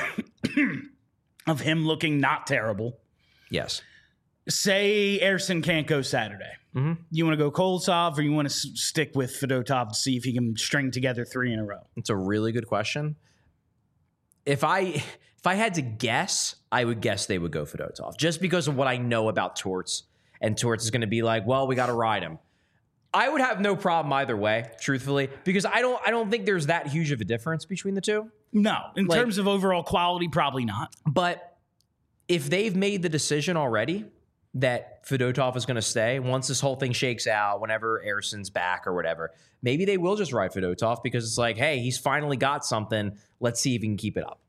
of him looking not terrible. Yes. Say Ersson can't go Saturday. You want to go Kolosov or you want to stick with Fedotov to see if he can string together 3 in a row? It's a really good question. If I had to guess, I would guess they would go Fedotov just because of what I know about Torts. And Torts is going to be like, well, we got to ride him. I would have no problem either way, truthfully, because I don't think there's that huge of a difference between the two. No, in terms of overall quality, probably not. But if they've made the decision already that Fedotov is going to stay, once this whole thing shakes out, whenever Ersson's back or whatever, maybe they will just ride Fedotov because it's like, hey, he's finally got something. Let's see if he can keep it up.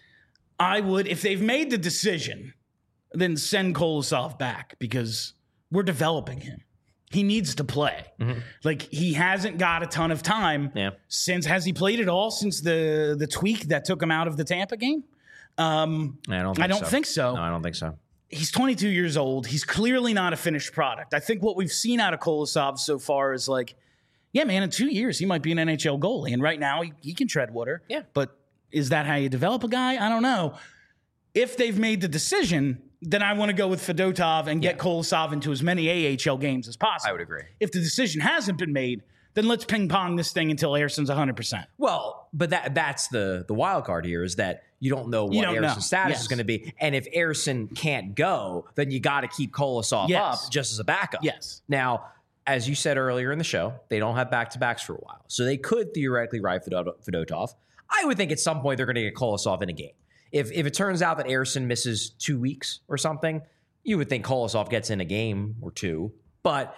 I would, if they've made the decision, then send Kolosov back because we're developing him. He needs to play. Like, he hasn't got a ton of time since, has he played at all since the tweak that took him out of the Tampa game? I don't think so. No, I don't think so. He's 22 years old. He's clearly not a finished product. I think what we've seen out of Kolosov so far is like, yeah, man, in 2 years, he might be an NHL goalie. And right now, he can tread water. Yeah. But is that how you develop a guy? I don't know. If they've made the decision, then I want to go with Fedotov and get Kolosov into as many AHL games as possible. I would agree. If the decision hasn't been made, then let's ping pong this thing until Ersson's 100%. Well, but that's the wild card here is that you don't know what Ersson's status is going to be. And if Ersson can't go, then you got to keep Kolosov up just as a backup. Yes. Now, as you said earlier in the show, they don't have back-to-backs for a while. So they could theoretically ride Fedotov. I would think at some point they're going to get Kolosov in a game. If it turns out that Ersson misses 2 weeks or something, you would think Kolosov gets in a game or two. But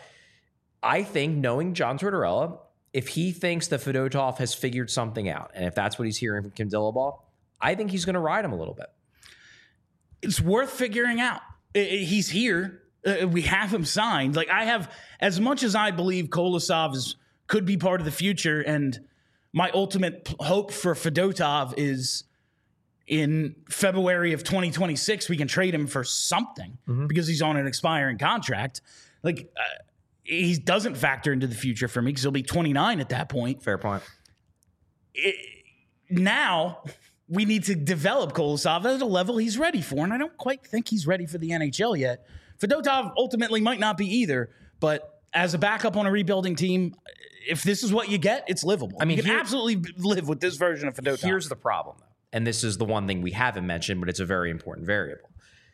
I think, knowing John Tortorella, if he thinks that Fedotov has figured something out, and if that's what he's hearing from Kim Dillabaugh, I think he's going to ride him a little bit. It's worth figuring out. He's here. We have him signed. Like, I have, as much as I believe Kolosov could be part of the future, and my ultimate hope for Fedotov is in February of 2026, we can trade him for something because he's on an expiring contract. Like, he doesn't factor into the future for me because he'll be 29 at that point. Fair point. Now we need to develop Kolosov at a level he's ready for, and I don't quite think he's ready for the NHL yet. Fedotov ultimately might not be either, but as a backup on a rebuilding team, if this is what you get, it's livable. I mean, you can absolutely live with this version of Fedotov. Here's the problem, though, and this is the one thing we haven't mentioned, but it's a very important variable.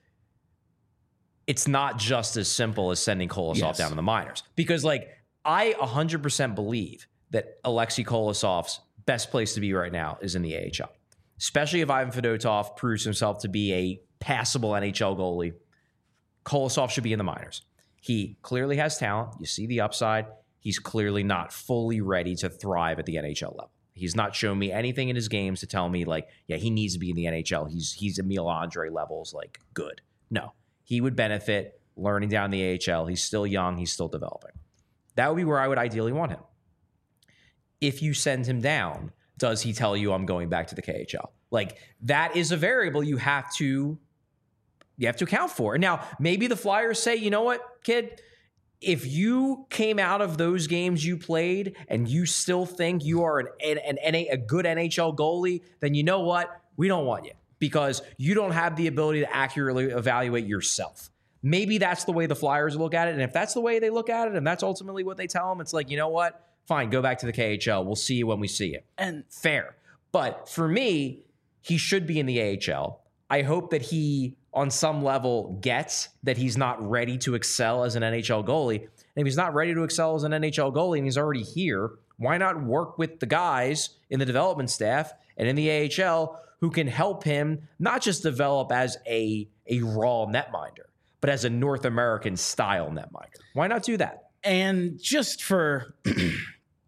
It's not just as simple as sending Kolosov down to the minors. Because, like, I 100% believe that Alexei Kolosov's best place to be right now is in the AHL. Especially if Ivan Fedotov proves himself to be a passable NHL goalie. Kolosov should be in the minors. He clearly has talent. You see the upside. He's clearly not fully ready to thrive at the NHL level. He's not shown me anything in his games to tell me, like, yeah, he needs to be in the NHL. He's Emil Andre levels, like, good. No. He would benefit learning down the AHL. He's still young. He's still developing. That would be where I would ideally want him. If you send him down, does he tell you I'm going back to the KHL? Like, that is a variable you have to account for. Now, maybe the Flyers say, you know what, kid? If you came out of those games you played and you still think you are a good NHL goalie, then you know what? We don't want you because you don't have the ability to accurately evaluate yourself. Maybe that's the way the Flyers look at it. And if that's the way they look at it and that's ultimately what they tell them, it's like, you know what? Fine, go back to the KHL. We'll see you when we see you. And fair. But for me, he should be in the AHL. I hope that he, on some level, gets that he's not ready to excel as an NHL goalie. And if he's not ready to excel as an NHL goalie and he's already here, why not work with the guys in the development staff and in the AHL who can help him not just develop as a raw netminder, but as a North American style netminder? Why not do that? And just for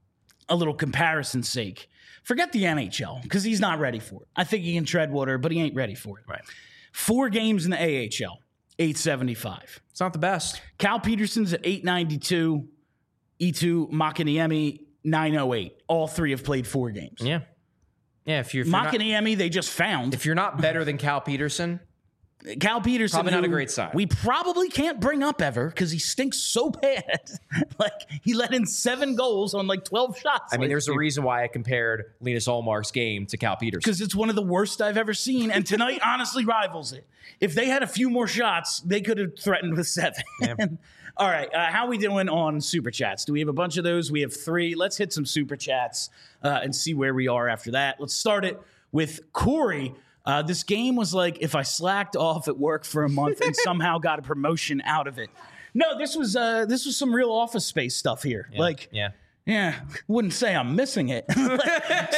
a little comparison's sake, forget the NHL because he's not ready for it. I think he can tread water, but he ain't ready for it. Right. 4 games in the AHL, 875. It's not the best. Cal Peterson's at 892. Eetu Makiniemi, 908. All 3 have played 4 games. Yeah. Yeah, if you're not, Makiniemi, they just found. if you're not better than Cal Peterson, Cal Peterson, probably not a who great sign. We probably can't bring up ever because he stinks so bad. Like, he let in 7 goals on like 12 shots. I mean, there's a reason why I compared Linus Ullmark's game to Cal Peterson. Because it's one of the worst I've ever seen, and tonight honestly rivals it. If they had a few more shots, they could have threatened with 7. Yeah. All right, how are we doing on Super Chats? Do we have a bunch of those? We have 3. Let's hit some Super Chats and see where we are after that. Let's start it with Corey. This game was like if I slacked off at work for a month and somehow got a promotion out of it. No, this was some real Office Space stuff here. Yeah. Yeah, wouldn't say I'm missing it. Like,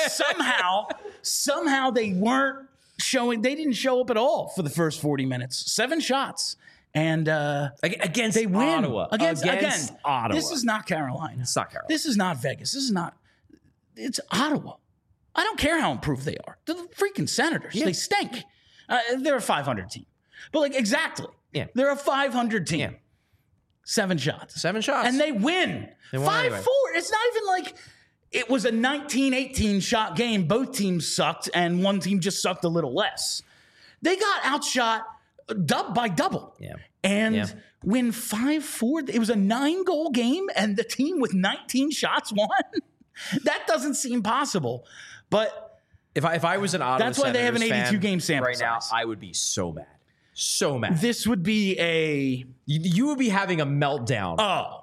somehow they weren't showing. They didn't show up at all for the first 40 minutes. 7 shots. And against they win. Ottawa. Against Ottawa. This is not Carolina. It's not Carolina. This is not Vegas. It's Ottawa. I don't care how improved they are. They're the freaking Senators. Yeah. They stink. They're a 500 team. But like, exactly. Yeah. They're a 500 team. Yeah. 7 shots. 7 shots. And they win. They won 5-4. anyway. It's not even like it was a 19-18 shot game. Both teams sucked, and one team just sucked a little less. They got outshot by double. Yeah. And win 5-4. It was a 9-goal game, and the team with 19 shots won. That doesn't seem possible. But if I was an Ottawa that's why they have an Senators 82 fan game sample right now, size. I would be so mad. So mad. This would be a You would be having a meltdown.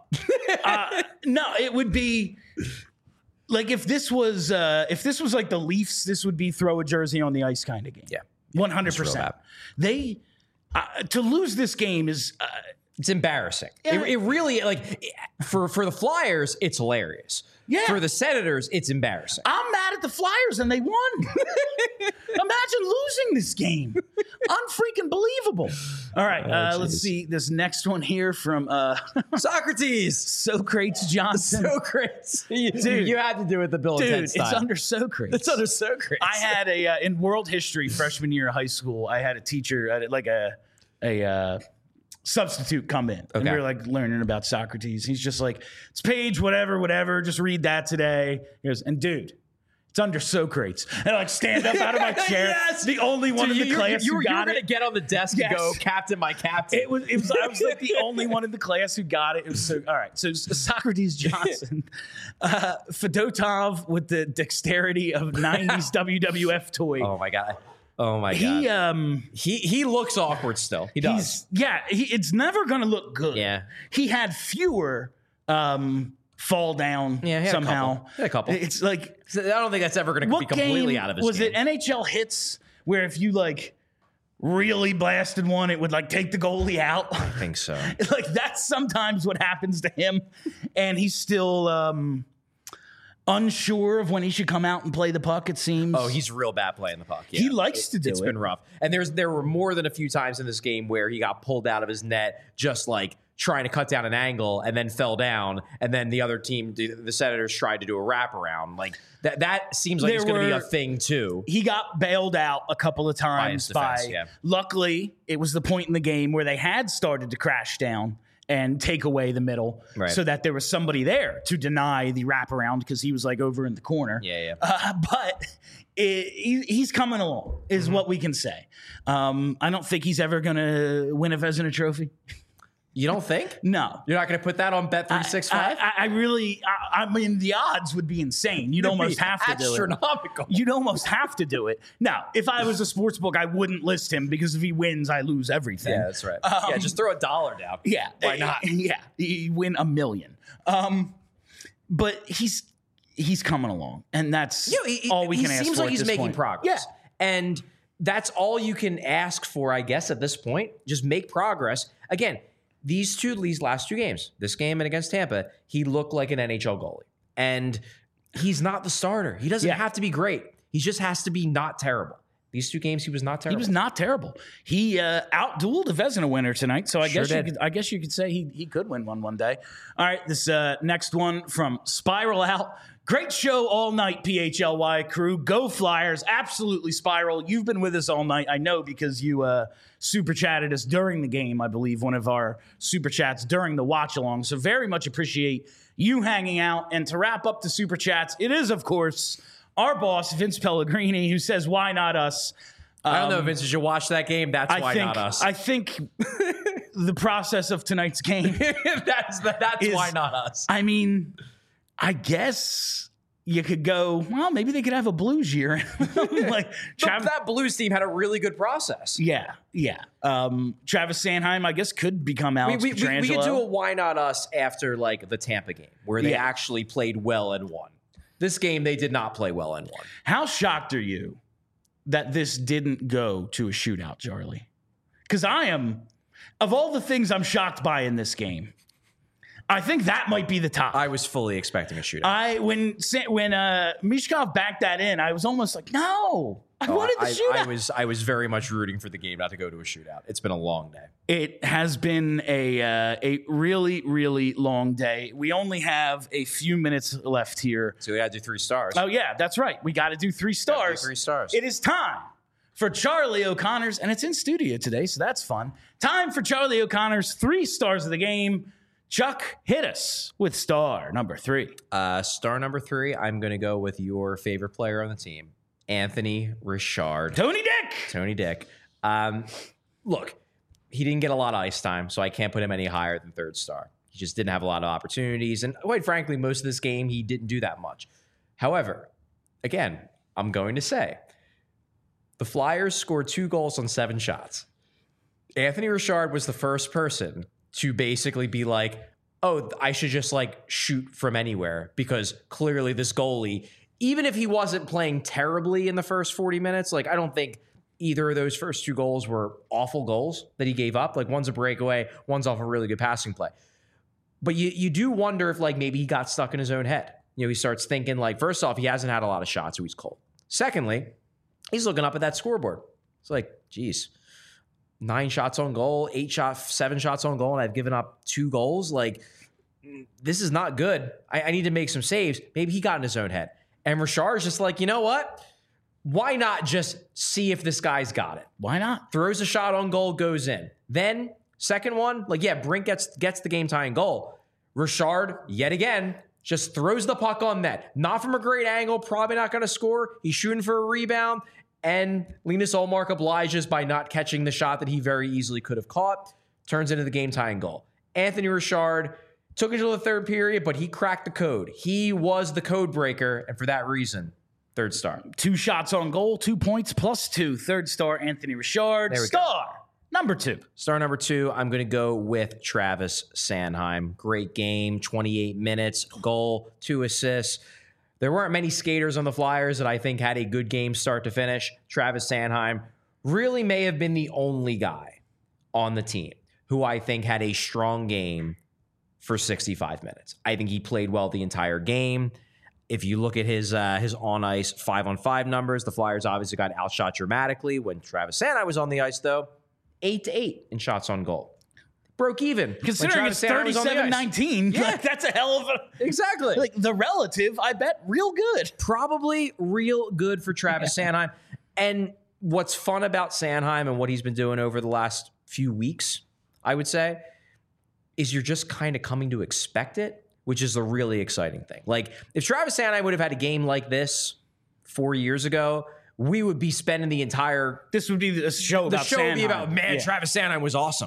no, it would be like if this was like the Leafs, this would be throw a jersey on the ice kind of game. Yeah. 100%. They to lose this game is it's embarrassing. Yeah. It really, like, for the Flyers, it's hilarious. Yeah. For the Senators, it's embarrassing. I'm mad at the Flyers and they won. Imagine losing this game. Unfreaking believable. All right, let's see this next one here from Socrates. Socrates Johnson. Socrates. Dude. You had to do it the Bill and Dude, Ted style. it's under Socrates. It's under Socrates. I had in world history freshman year of high school, I had a teacher, like a substitute come in. And we were like learning about Socrates. He's just like, it's page whatever, just read that today. He goes, and dude, it's under Socrates. And I like stand up out of my chair. Yes. The only one in the class you who were got going to it. get on the desk and go, Captain, my captain. I was like the only one in the class who got it. It was so all right. So Socrates Johnson, Fedotov with the dexterity of 90s WWF toy. Oh my god. He looks awkward still. He does. It's never going to look good. Yeah. He had fewer fall down somehow. He had a couple. It's like, I don't think that's ever going to be completely out of his was game. it NHL hits where if you like really blasted one, it would like take the goalie out? I think so. Like that's sometimes what happens to him, and he's still unsure of when he should come out and play the puck. It seems. Oh, he's real bad playing the puck. Yeah. He likes to do it. It's been rough, and there were more than a few times in this game where he got pulled out of his net, just like trying to cut down an angle, and then fell down, and then the other team, the Senators, tried to do a wraparound. Like that seems like it's going to be a thing too. He got bailed out a couple of times defense, Luckily, it was the point in the game where they had started to crash down and take away the middle, so that there was somebody there to deny the wraparound because he was like over in the corner. Yeah. But he's coming along, is what we can say. I don't think he's ever going to win a Vezina Trophy. You don't think? No. You're not going to put that on Bet365? I mean, the odds would be insane. You'd almost have to do it. Astronomical. You'd almost have to do it. Now, if I was a sports book, I wouldn't list him because if he wins, I lose everything. Yeah, that's right. Just throw $1 down. Yeah. Why not? Yeah. You win $1 million. But he's coming along, and that's all we can ask for. He seems like he's making point. progress. Yeah. And that's all you can ask for, I guess, at this point. Just make progress. Again, these last 2 games, this game and against Tampa, he looked like an NHL goalie. And he's not the starter. He doesn't have to be great. He just has to be not terrible. These 2 games, he was not terrible. He was not terrible. He outdueled a Vezina winner tonight, so I guess you could say he could win one day. All right, this next one from Spiral Out. Great show all night, PHLY crew. Go Flyers. Absolutely, Spiral. You've been with us all night. I know because you super chatted us during the game, I believe, one of our super chats during the watch along. So very much appreciate you hanging out. And to wrap up the super chats, it is, of course, our boss, Vince Pellegrini, who says, why not us? I don't know, Vince. Did you watch that game? That's why not us. I think the process of tonight's game. that's why not us. I mean, I guess you could go, well, maybe they could have a Blues year. That Blues team had a really good process. Yeah. Travis Sanheim, I guess, could become Alex Pietrangelo. We could do a why not us after the Tampa game where they actually played well and won. This game, they did not play well and won. How shocked are you that this didn't go to a shootout, Charlie? Because I am, of all the things I'm shocked by in this game, I think that might be the top. I was fully expecting a shootout. When Mishkov backed that in, I was almost like, no. I wanted the shootout. I was very much rooting for the game not to go to a shootout. It's been a long day. It has been a really, really long day. We only have a few minutes left here. So we got to do 3 stars. Oh, yeah, that's right. We got to do 3 stars. 3 stars. It is time for Charlie O'Connor's, and it's in studio today, so that's fun. Time for Charlie O'Connor's 3 stars of the game. Chuck, hit us with star number 3. Star number 3, I'm going to go with your favorite player on the team, Anthony Richard. Tony Dick. Look, he didn't get a lot of ice time, so I can't put him any higher than 3rd star. He just didn't have a lot of opportunities. And quite frankly, most of this game, he didn't do that much. However, again, I'm going to say the Flyers scored 2 goals on 7 shots. Anthony Richard was the first person to basically be like, oh, I should just shoot from anywhere because clearly this goalie, even if he wasn't playing terribly in the first 40 minutes, I don't think either of those first 2 goals were awful goals that he gave up. One's a breakaway, one's off a really good passing play. But you do wonder if maybe he got stuck in his own head. He starts thinking first off, he hasn't had a lot of shots, so he's cold. Secondly, he's looking up at that scoreboard. It's geez, 9 shots on goal, 7 shots on goal, and I've given up 2 goals. This is not good. I need to make some saves. Maybe he got in his own head. And Richard's just you know what? Why not just see if this guy's got it? Why not? Throws a shot on goal, goes in. Then, second one, Brink gets the game-tying goal. Richard, yet again, just throws the puck on net. Not from a great angle, probably not going to score. He's shooting for a rebound. And Linus Ullmark obliges by not catching the shot that he very easily could have caught. Turns into the game-tying goal. Anthony Richard took it to the 3rd period, but he cracked the code. He was the code breaker, and for that reason, 3rd star. 2 shots on goal, 2 points plus 2. 3rd star, Anthony Richard. Star number 2. Star number 2, I'm going to go with Travis Sanheim. Great game, 28 minutes, goal, 2 assists. There weren't many skaters on the Flyers that I think had a good game start to finish. Travis Sanheim really may have been the only guy on the team who I think had a strong game for 65 minutes. I think he played well the entire game. If you look at his on-ice 5-on-5 numbers, the Flyers obviously got outshot dramatically. When Travis Sanheim was on the ice, though, 8-8 in shots on goal. Broke even. Considering it's 37-19, that's a hell of a... Exactly. The relative, I bet, real good. Probably real good for Travis Sanheim. And what's fun about Sanheim and what he's been doing over the last few weeks, I would say, is you're just kind of coming to expect it, which is the really exciting thing. If Travis Sanheim would have had a game like this 4 years ago, we would be spending the entire... This would be the show about Sanheim. The show would be about, Travis Sanheim was awesome.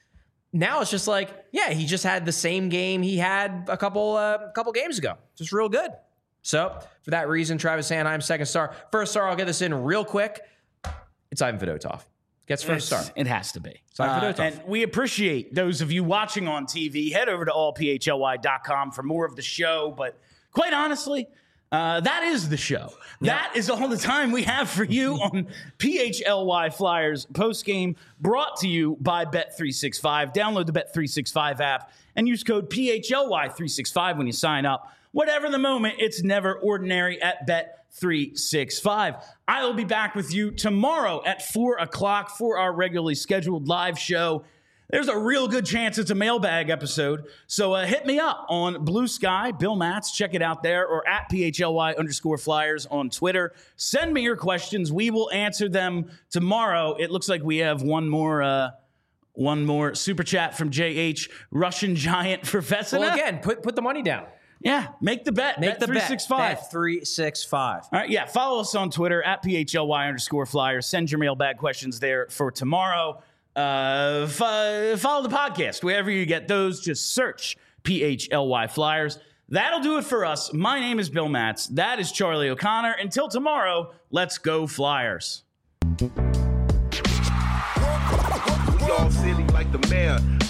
Now it's just he just had the same game he had a couple games ago. Just real good. So for that reason, Travis Sanheim, 2nd star. 1st star, I'll get this in real quick. It's Ivan Fedotov. Gets 1st star. It has to be. And we appreciate those of you watching on TV. Head over to allphly.com for more of the show. But quite honestly, That is the show. That is all the time we have for you on PHLY Flyers postgame, brought to you by Bet365. Download the Bet365 app and use code PHLY365 when you sign up. Whatever the moment, it's never ordinary at Bet365. I will be back with you tomorrow at 4 o'clock for our regularly scheduled live show. There's a real good chance it's a mailbag episode. So hit me up on Blue Sky, Bill Matz. Check it out there, or at PHLY_Flyers on Twitter. Send me your questions. We will answer them tomorrow. It looks like we have one more super chat from JH. Russian Giant for Vesina. Well, again, put the money down. Yeah, make the bet. Make the bet. Bet365. Bet365. All right, yeah. Follow us on Twitter at PHLY_Flyers. Send your mailbag questions there for tomorrow. Follow the podcast wherever you get those. Just search PHLY Flyers. That'll do it for us. My name is Bill Matz. That is Charlie O'Connor. Until tomorrow, let's go Flyers. Y'all silly like the mayor.